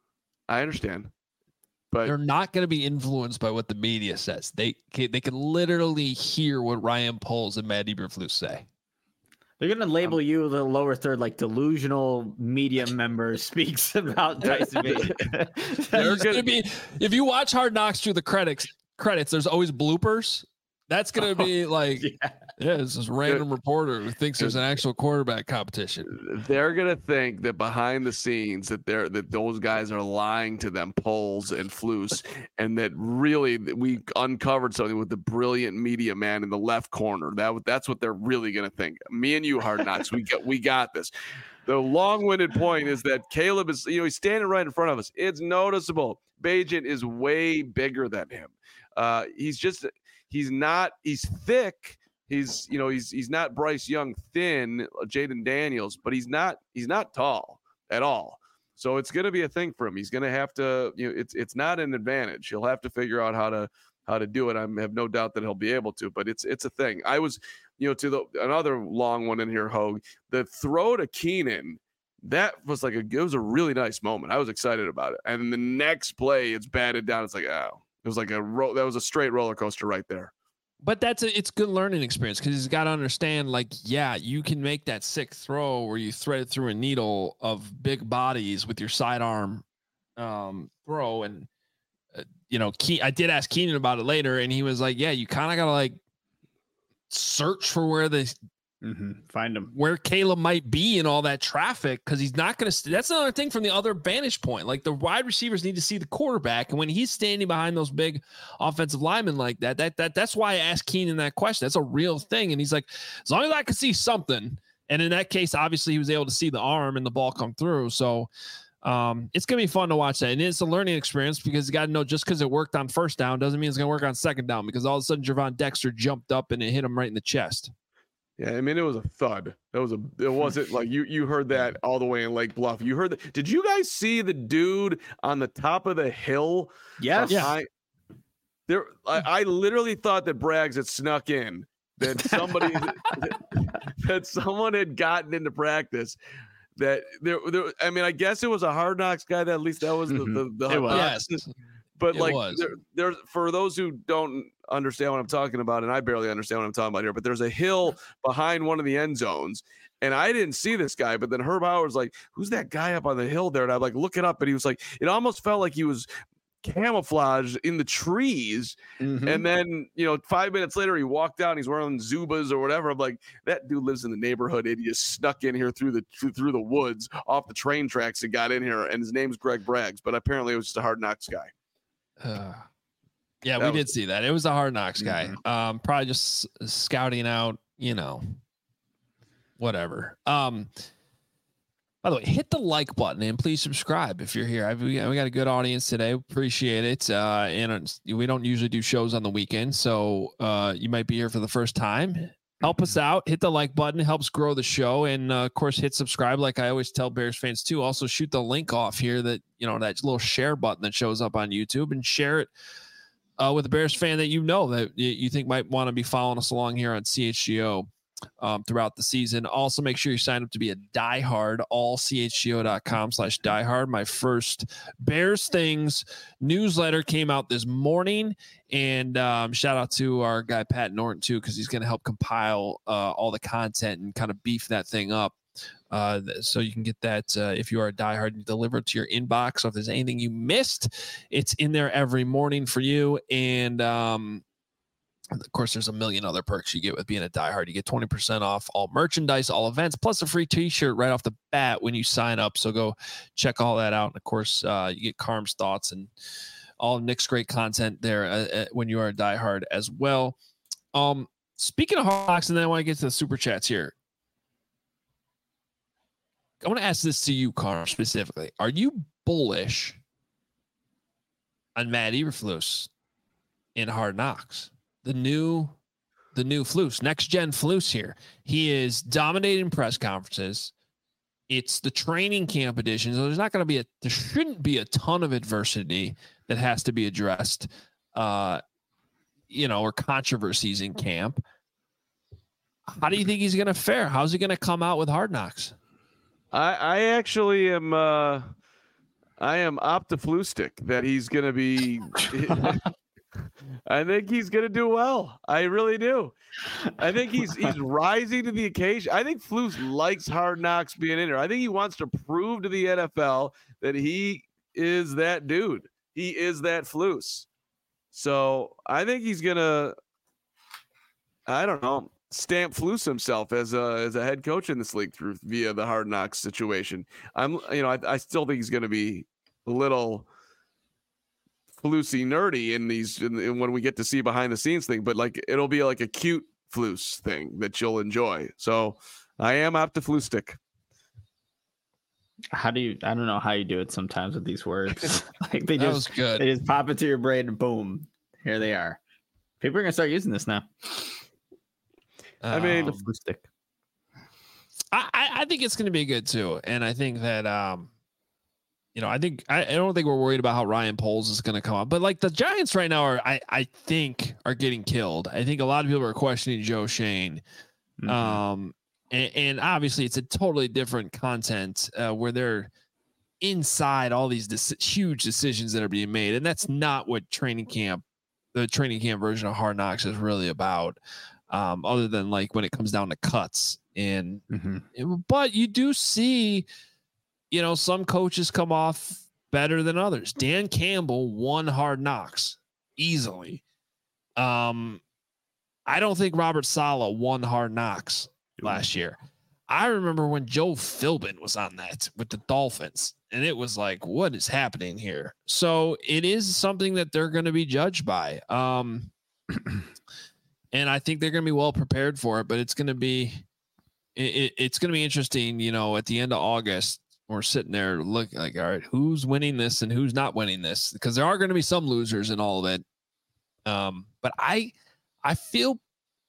I understand, but they're not going to be influenced by what the media says. They they can literally hear what Ryan Poles and Matt Eberflus say. They're going to label um, you the lower third, like delusional media member speaks about Tyson Bagent. There's going to be, if you watch Hard Knocks through the credits, credits, there's always bloopers. That's going to be like, yeah, yeah this is random reporter who thinks there's an actual quarterback competition. They're going to think that behind the scenes that they're that those guys are lying to them, Poles and Flus, and that really we uncovered something with the brilliant media man in the left corner. That that's what they're really going to think. Me and you, Hard Knocks, we got we got this. The long-winded point is that Caleb is, you know, he's standing right in front of us. It's noticeable. Bagent is way bigger than him. Uh, he's just. He's not, he's thick. He's, you know, he's, he's not Bryce Young thin, Jaden Daniels, but he's not, he's not tall at all. So it's going to be a thing for him. He's going to have to, you know, it's, it's not an advantage. He'll have to figure out how to, how to do it. I have no doubt that he'll be able to, but it's, it's a thing. I was, you know, to the, another long one in here, Hogue, the throw to Keenan, that was like a, it was a really nice moment. I was excited about it. And the next play, it's batted down. It's like, oh. It was like a ro- that was a straight roller coaster right there. But that's a it's good learning experience because he's got to understand, like, yeah, you can make that sick throw where you thread it through a needle of big bodies with your sidearm um, throw. And, uh, you know, Ke- I did ask Keenan about it later, and he was like, yeah, you kind of got to like search for where the mm-hmm. find him, where Caleb might be in all that traffic, because he's not going to. St- that's another thing from the other vantage point. Like the wide receivers need to see the quarterback, and when he's standing behind those big offensive linemen like that, that that that's why I asked Keenan that question. That's a real thing, and he's like, as long as I can see something. And in that case, obviously, he was able to see the arm and the ball come through. So um, it's gonna be fun to watch that, and it's a learning experience because you got to know just because it worked on first down doesn't mean it's gonna work on second down. Because all of a sudden, Gervon Dexter jumped up and it hit him right in the chest. Yeah, I mean, it was a thud. It was a. It wasn't like you. You heard that all the way in Lake Bluff. You heard that. Did you guys see the dude on the top of the hill? Yes. I, there, I, I literally thought that Braggs had snuck in. That somebody, that someone had gotten into practice. That there, there. I mean, I guess it was a Hard Knocks guy. That at least that was the Mhm. the. the It was. Yes. But It like, was. there, there's for those who don't understand what I'm talking about, and I barely understand what I'm talking about here, but there's a hill behind one of the end zones, and I didn't see this guy, but then Herb Howard's like, "Who's that guy up on the hill there?" And I'm like, "Look it up," and he was like, it almost felt like he was camouflaged in the trees, Mhm. and then you know, five minutes later, he walked down. He's wearing Zubas or whatever. I'm like, that dude lives in the neighborhood, and he just snuck in here through the through the woods off the train tracks and got in here, and his name's Greg Braggs, but apparently it was just a Hard Knocks guy. Uh, yeah, That we was- did see that. It was a Hard Knocks guy. Um, probably just s- scouting out, you know, whatever. Um, by the way, hit the like button and please subscribe if you're here. I've, we got we got a good audience today. Appreciate it. Uh, and it's- we don't usually do shows on the weekend, so uh, you might be here for the first time. Help us out. Hit the like button. It helps grow the show. And uh, of course, hit subscribe. Like I always tell Bears fans too. Also shoot the link off here that, you know, that little share button that shows up on YouTube and share it uh, with a Bears fan that you know that y- you think might want to be following us along here on C H G O um, throughout the season. Also make sure you sign up to be a diehard, all C H G O dot com slash diehard. My first Bears Things newsletter came out this morning. And um, shout out to our guy, Pat Norton, too, because he's going to help compile uh, all the content and kind of beef that thing up. Uh, so you can get that uh, if you are a diehard delivered to your inbox. So if there's anything you missed, it's in there every morning for you. And um, of course, there's a million other perks you get with being a diehard. You get twenty percent off all merchandise, all events, plus a free t-shirt right off the bat when you sign up. So go check all that out. And of course, uh, you get Carm's thoughts and all of Nick's great content there uh, uh, when you are a diehard as well. Um, speaking of Hard Knocks, and then I want to get to the super chats here. I want to ask this to you, Carm, specifically. Are you bullish on Matt Eberflus in Hard Knocks? The new, the new Flus, next gen Flus here. He is dominating press conferences. It's the training camp edition, so there's not going to be a, there shouldn't be a ton of adversity that has to be addressed, uh, you know, or controversies in camp. How do you think he's going to fare? How's he going to come out with Hard Knocks? I, I actually am. Uh, I am optimistic that he's going to be. I think he's going to do well. I really do. I think he's he's rising to the occasion. I think Flus likes Hard Knocks being in there. I think he wants to prove to the N F L that he is that dude. He is that Flus. So I think he's gonna. I don't know. Stamp Flus himself as a as a head coach in this league through via the Hard Knocks situation. I'm you know I, I still think he's going to be a little Flusy nerdy in these in, in when we get to see behind the scenes thing, but like it'll be like a cute Flus thing that you'll enjoy. So I am optimistic. How do you? I don't know how you do it sometimes with these words. Like they That just was good. they just pop into your brain and boom, here they are. People are gonna start using this now. I mean, Um, Optimistic. I, I I think it's going to be good too, and I think that um, you know, I think I, I don't think we're worried about how Ryan Poles is going to come up, but like the Giants right now are I I think are getting killed. I think a lot of people are questioning Joe Shane, Mhm. um, and, and obviously it's a totally different content uh, where they're inside all these dec- huge decisions that are being made, and that's not what training camp, the training camp version of Hard Knocks is really about. Um, other than like when it comes down to cuts and Mhm. it- but you do see, you know, some coaches come off better than others. Dan Campbell won Hard Knocks easily. Um, I don't think Robert Saleh won Hard Knocks last year. I remember when Joe Philbin was on that with the Dolphins, and it was like, what is happening here? So it is something that they're going to be judged by. Um, and I think they're going to be well prepared for it, but it's going to be, it, it's going to be interesting, you know, at the end of August, we're sitting there looking like, all right, who's winning this and who's not winning this? Because there are going to be some losers in all of it. Um, but I, I feel,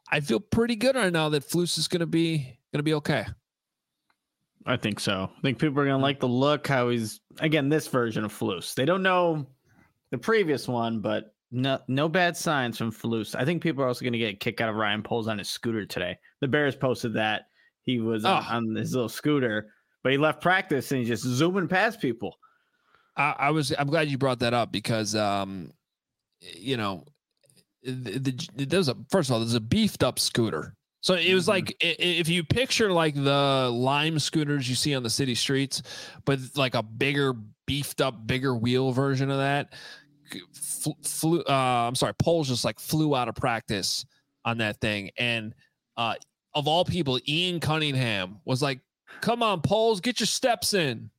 I feel pretty good right now that Flus is going to be going to be okay. I think so. I think people are going to like the look, how he's, again, this version of Flus. They don't know the previous one, but no no bad signs from Flus. I think people are also going to get a kick out of Ryan Poles on his scooter today. The Bears posted that he was oh. on, on his little scooter, but he left practice and he's just zooming past people. I, I was, I'm glad you brought that up because, um, you know, the, the, there's a, first of all, there's a beefed up scooter. So it was like, if you picture like the Lime scooters you see on the city streets, but like a bigger, beefed up, bigger wheel version of that, flew, uh, I'm sorry, Poles just like flew out of practice on that thing. And uh, of all people, Ian Cunningham was like, come on, Poles, get your steps in.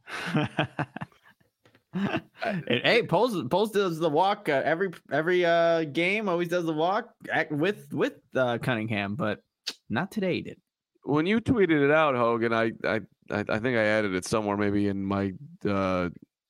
Hey, Poles, Poles does the walk uh, every every uh, game. Always does the walk with with uh, Cunningham, but not today. He did. When you tweeted it out, Hogan, I I I think I added it somewhere, maybe in my uh,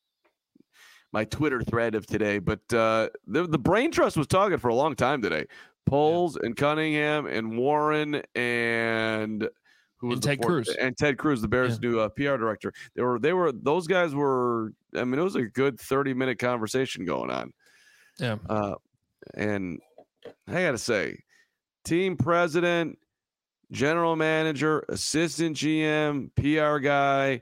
my Twitter thread of today. But uh, the the Brain Trust was talking for a long time today. Poles yeah. and Cunningham and Warren and. Who was and Ted fourth, Cruz and Ted Cruz, the Bears' yeah. new uh, P R director. They were, they were, those guys were. I mean, it was a good thirty minute conversation going on. Yeah. Uh, and I got to say, team president, general manager, assistant G M, P R guy,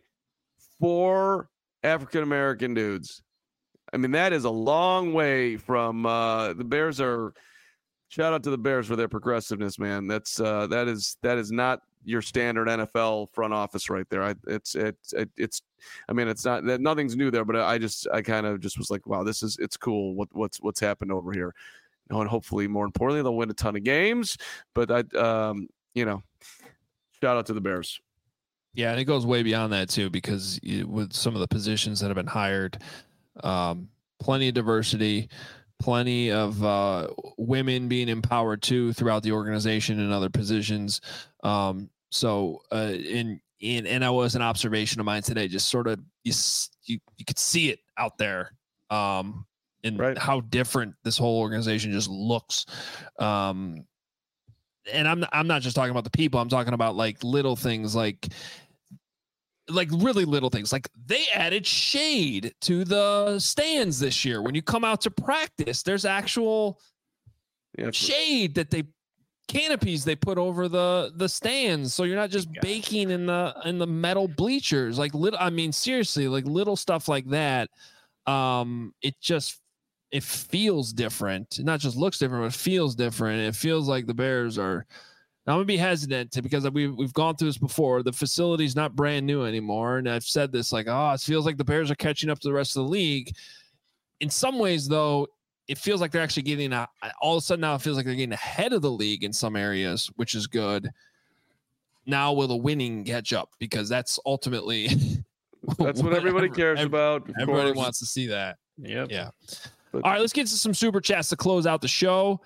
four African American dudes. I mean, that is a long way from uh, the Bears are. Shout out to the Bears for their progressiveness, man. That's uh, that is that is not your standard N F L front office right there. I, it's it's it, it's. I mean, it's not that nothing's new there, but I just I kind of just was like, wow, this is it's cool. What what's what's happened over here, and hopefully, more importantly, they'll win a ton of games. But I, um, you know, shout out to the Bears. Yeah, and it goes way beyond that too, because you, with some of the positions that have been hired, um, plenty of diversity. Plenty of uh, women being empowered too throughout the organization and other positions. Um, so, uh, in in and that was an observation of mine today. Just sort of you you, you could see it out there, um, and right. how different this whole organization just looks. Um, and I'm I'm not just talking about the people. I'm talking about like little things like. Like really little things, like they added shade to the stands this year. When you come out to practice, there's actual yeah, shade that they canopies they put over the the stands, so you're not just God. baking in the in the metal bleachers. Like little, I mean, seriously, like little stuff like that. Um, it just it feels different. It not just looks different, but it feels different. It feels like the Bears are. Now, I'm going to be hesitant to, because we've, we've gone through this before. The facility's not brand new anymore. And I've said this like, oh, it feels like the Bears are catching up to the rest of the league. In some ways, though, it feels like they're actually getting a, all of a sudden now it feels like they're getting ahead of the league in some areas, which is good. Now will the winning catch up? Because that's ultimately that's what everybody cares every, about. Everybody course. wants to see that. Yep. Yeah. But, all right, let's get to some super chats to close out the show.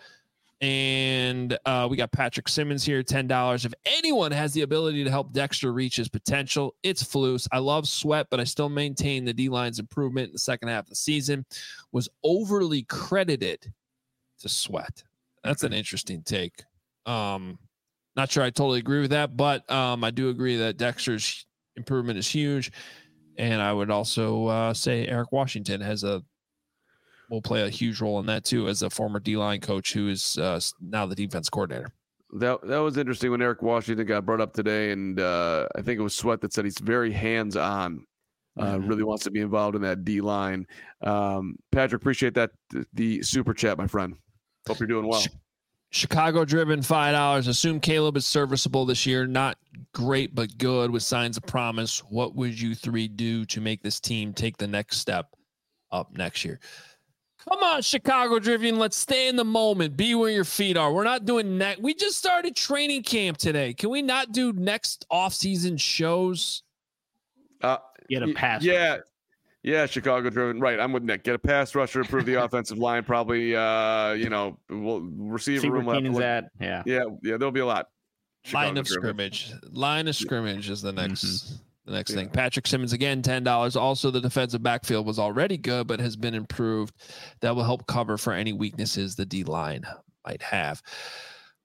And uh, we got Patrick Simmons here, ten dollars. If anyone has the ability to help Dexter reach his potential, it's Flus. I love Sweat, but I still maintain the D-line's improvement in the second half of the season was overly credited to Sweat. That's an interesting take. Um, not sure I totally agree with that, but um, I do agree that Dexter's improvement is huge. And I would also uh, say Eric Washington has a will play a huge role in that too, as a former D-line coach who is uh, now the defense coordinator. That that was interesting when Eric Washington got brought up today, and uh, I think it was Sweat that said he's very hands-on, uh, mm-hmm. really wants to be involved in that D-line. Um, Patrick, appreciate that the super chat, my friend. Hope you're doing well. Chicago driven five dollars. Assume Caleb is serviceable this year. Not great, but good with signs of promise. What would you three do to make this team take the next step up next year? Come on, Chicago driven. Let's stay in the moment. Be where your feet are. We're not doing next. We just started training camp today. Can we not do next off-season shows? Uh, Get a pass. Yeah. Rusher. Yeah, Chicago driven. Right. I'm with Nick. Get a pass rusher, improve the offensive line. Probably, uh, you know, we'll receiver See room. where Keenan's at. Yeah. Yeah. Yeah. There'll be a lot. Chicago line of driven. scrimmage. Line of scrimmage is the next. Mm-hmm. The next yeah. thing. Patrick Simmons, again, ten dollars. Also, the defensive backfield was already good, but has been improved. That will help cover for any weaknesses the D-line might have.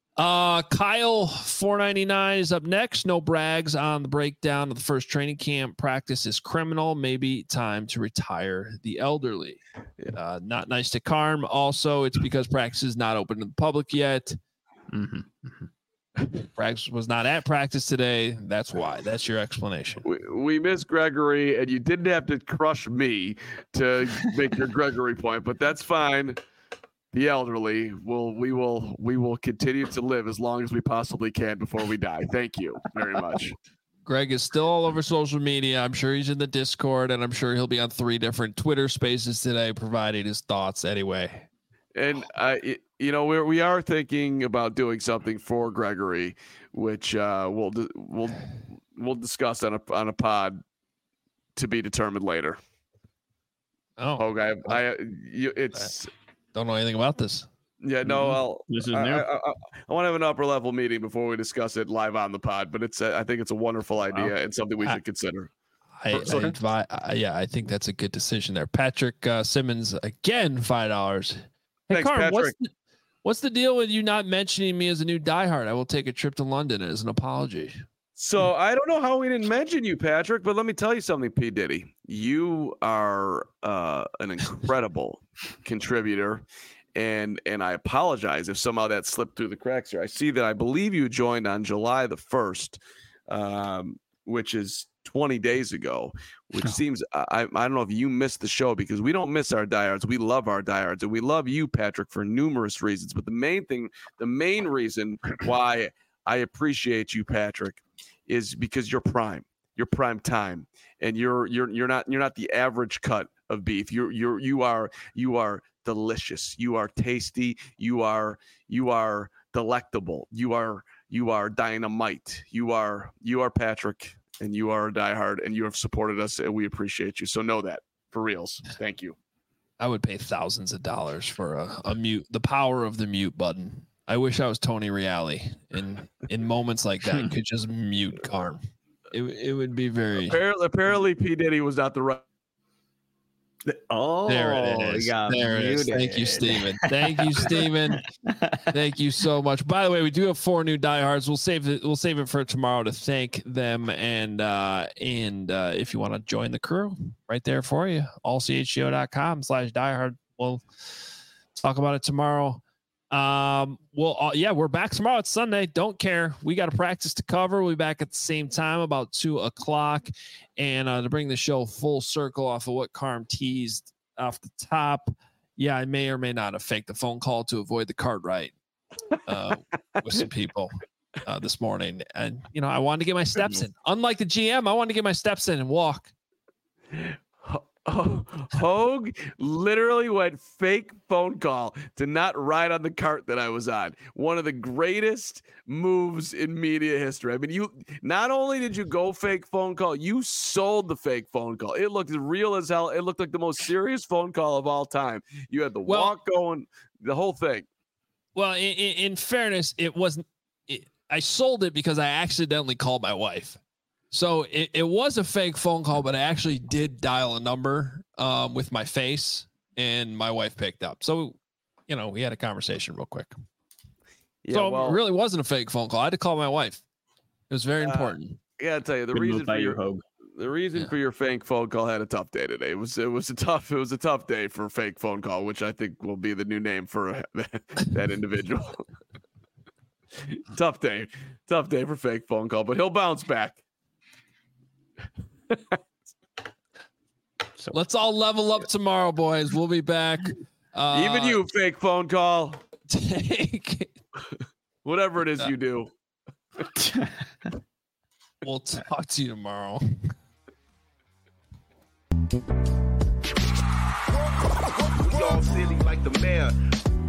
Uh, Kyle four ninety-nine is up next. No brags on the breakdown of the first training camp. Practice is criminal. Maybe time to retire the elderly. Yeah. Uh, not nice to Carm. Also, it's because practice is not open to the public yet. Mm-hmm. Mm-hmm. Practice was not at practice today. That's why. That's your explanation. We, we miss Gregory, and you didn't have to crush me to make your Gregory point, but that's fine. The elderly will we will we will continue to live as long as we possibly can before we die. Thank you very much. Greg is still all over social media. I'm sure he's in the Discord, and I'm sure he'll be on three different Twitter spaces today, providing his thoughts anyway. And I, you know, we're we are thinking about doing something for Gregory, which uh, we'll we'll we'll discuss on a on a pod to be determined later. Oh, okay. I, I you, it's. Don't know anything about this. Yeah, no, I'll, this is I, new. I, I, I want to have an upper level meeting before we discuss it live on the pod, but it's a, I think it's a wonderful idea wow. and something we I, should consider. I, I, advi- I yeah, I think that's a good decision there. Patrick uh, Simmons again, five dollars. Hey, Thanks, Carm, Patrick. what's the, what's the deal with you not mentioning me as a new diehard? I will take a trip to London as an apology. So I don't know how we didn't mention you, Patrick, but let me tell you something, P. Diddy. You are uh, an incredible contributor. And and I apologize if somehow that slipped through the cracks here. I see that I believe you joined on July the first, um, which is twenty days ago, which seems, I, I don't know if you missed the show because we don't miss our diehards. We love our diehards, and we love you, Patrick, for numerous reasons. But the main thing, the main reason why I appreciate you, Patrick, is because you're prime. You're prime time, and you're you're you're not you're not the average cut of beef. You're you're you are you are delicious. You are tasty. You are you are delectable. You are you are dynamite. You are you are Patrick, and you are a diehard, and you have supported us, and we appreciate you. So know that for reals. Thank you. I would pay thousands of dollars for a, a mute. The power of the mute button. I wish I was Tony Reale, and in moments like that, could just mute Carm. It it would be very. Apparently, apparently, P. Diddy was not the right. Oh, there it is. There it is. Thank you, Steven. Thank you, Steven. Thank you so much. By the way, we do have four new diehards. We'll save it. We'll save it for tomorrow to thank them. And uh, and uh, if you want to join the crew, right there for you. all c h g o dot com slash diehard. We'll talk about it tomorrow. Um, well, uh, yeah, we're back tomorrow. It's Sunday. Don't care. We got a practice to cover. We'll be back at the same time, about two o'clock. And uh, to bring the show full circle off of what Carm teased off the top, yeah, I may or may not have faked the phone call to avoid the cart ride uh, with some people uh, this morning. And, you know, I wanted to get my steps in. Unlike the G M, I wanted to get my steps in and walk. Oh, Hogue literally went fake phone call to not ride on the cart that I was on. One of the greatest moves in media history. I mean, you not only did you go fake phone call, you sold the fake phone call. It looked real as hell. It looked like the most serious phone call of all time. You had the well, walk going, the whole thing. Well, in, in fairness, it wasn't. It, I sold it because I accidentally called my wife. So it, it was a fake phone call, but I actually did dial a number um, with my face, and my wife picked up. So, you know, we had a conversation real quick. Yeah, so well, it really wasn't a fake phone call. I had to call my wife. It was very uh, important. I gotta tell you, the Good reason for your you, the reason yeah. for your fake phone call had a tough day today. It was it was a tough it was a tough day for a fake phone call, which I think will be the new name for that, that individual. Tough day, tough day for fake phone call, but he'll bounce back. So let's all level up tomorrow, boys. We'll be back. Uh, Even you, fake phone call. Take whatever it is you do. We'll talk to you tomorrow. We all silly like the mayor.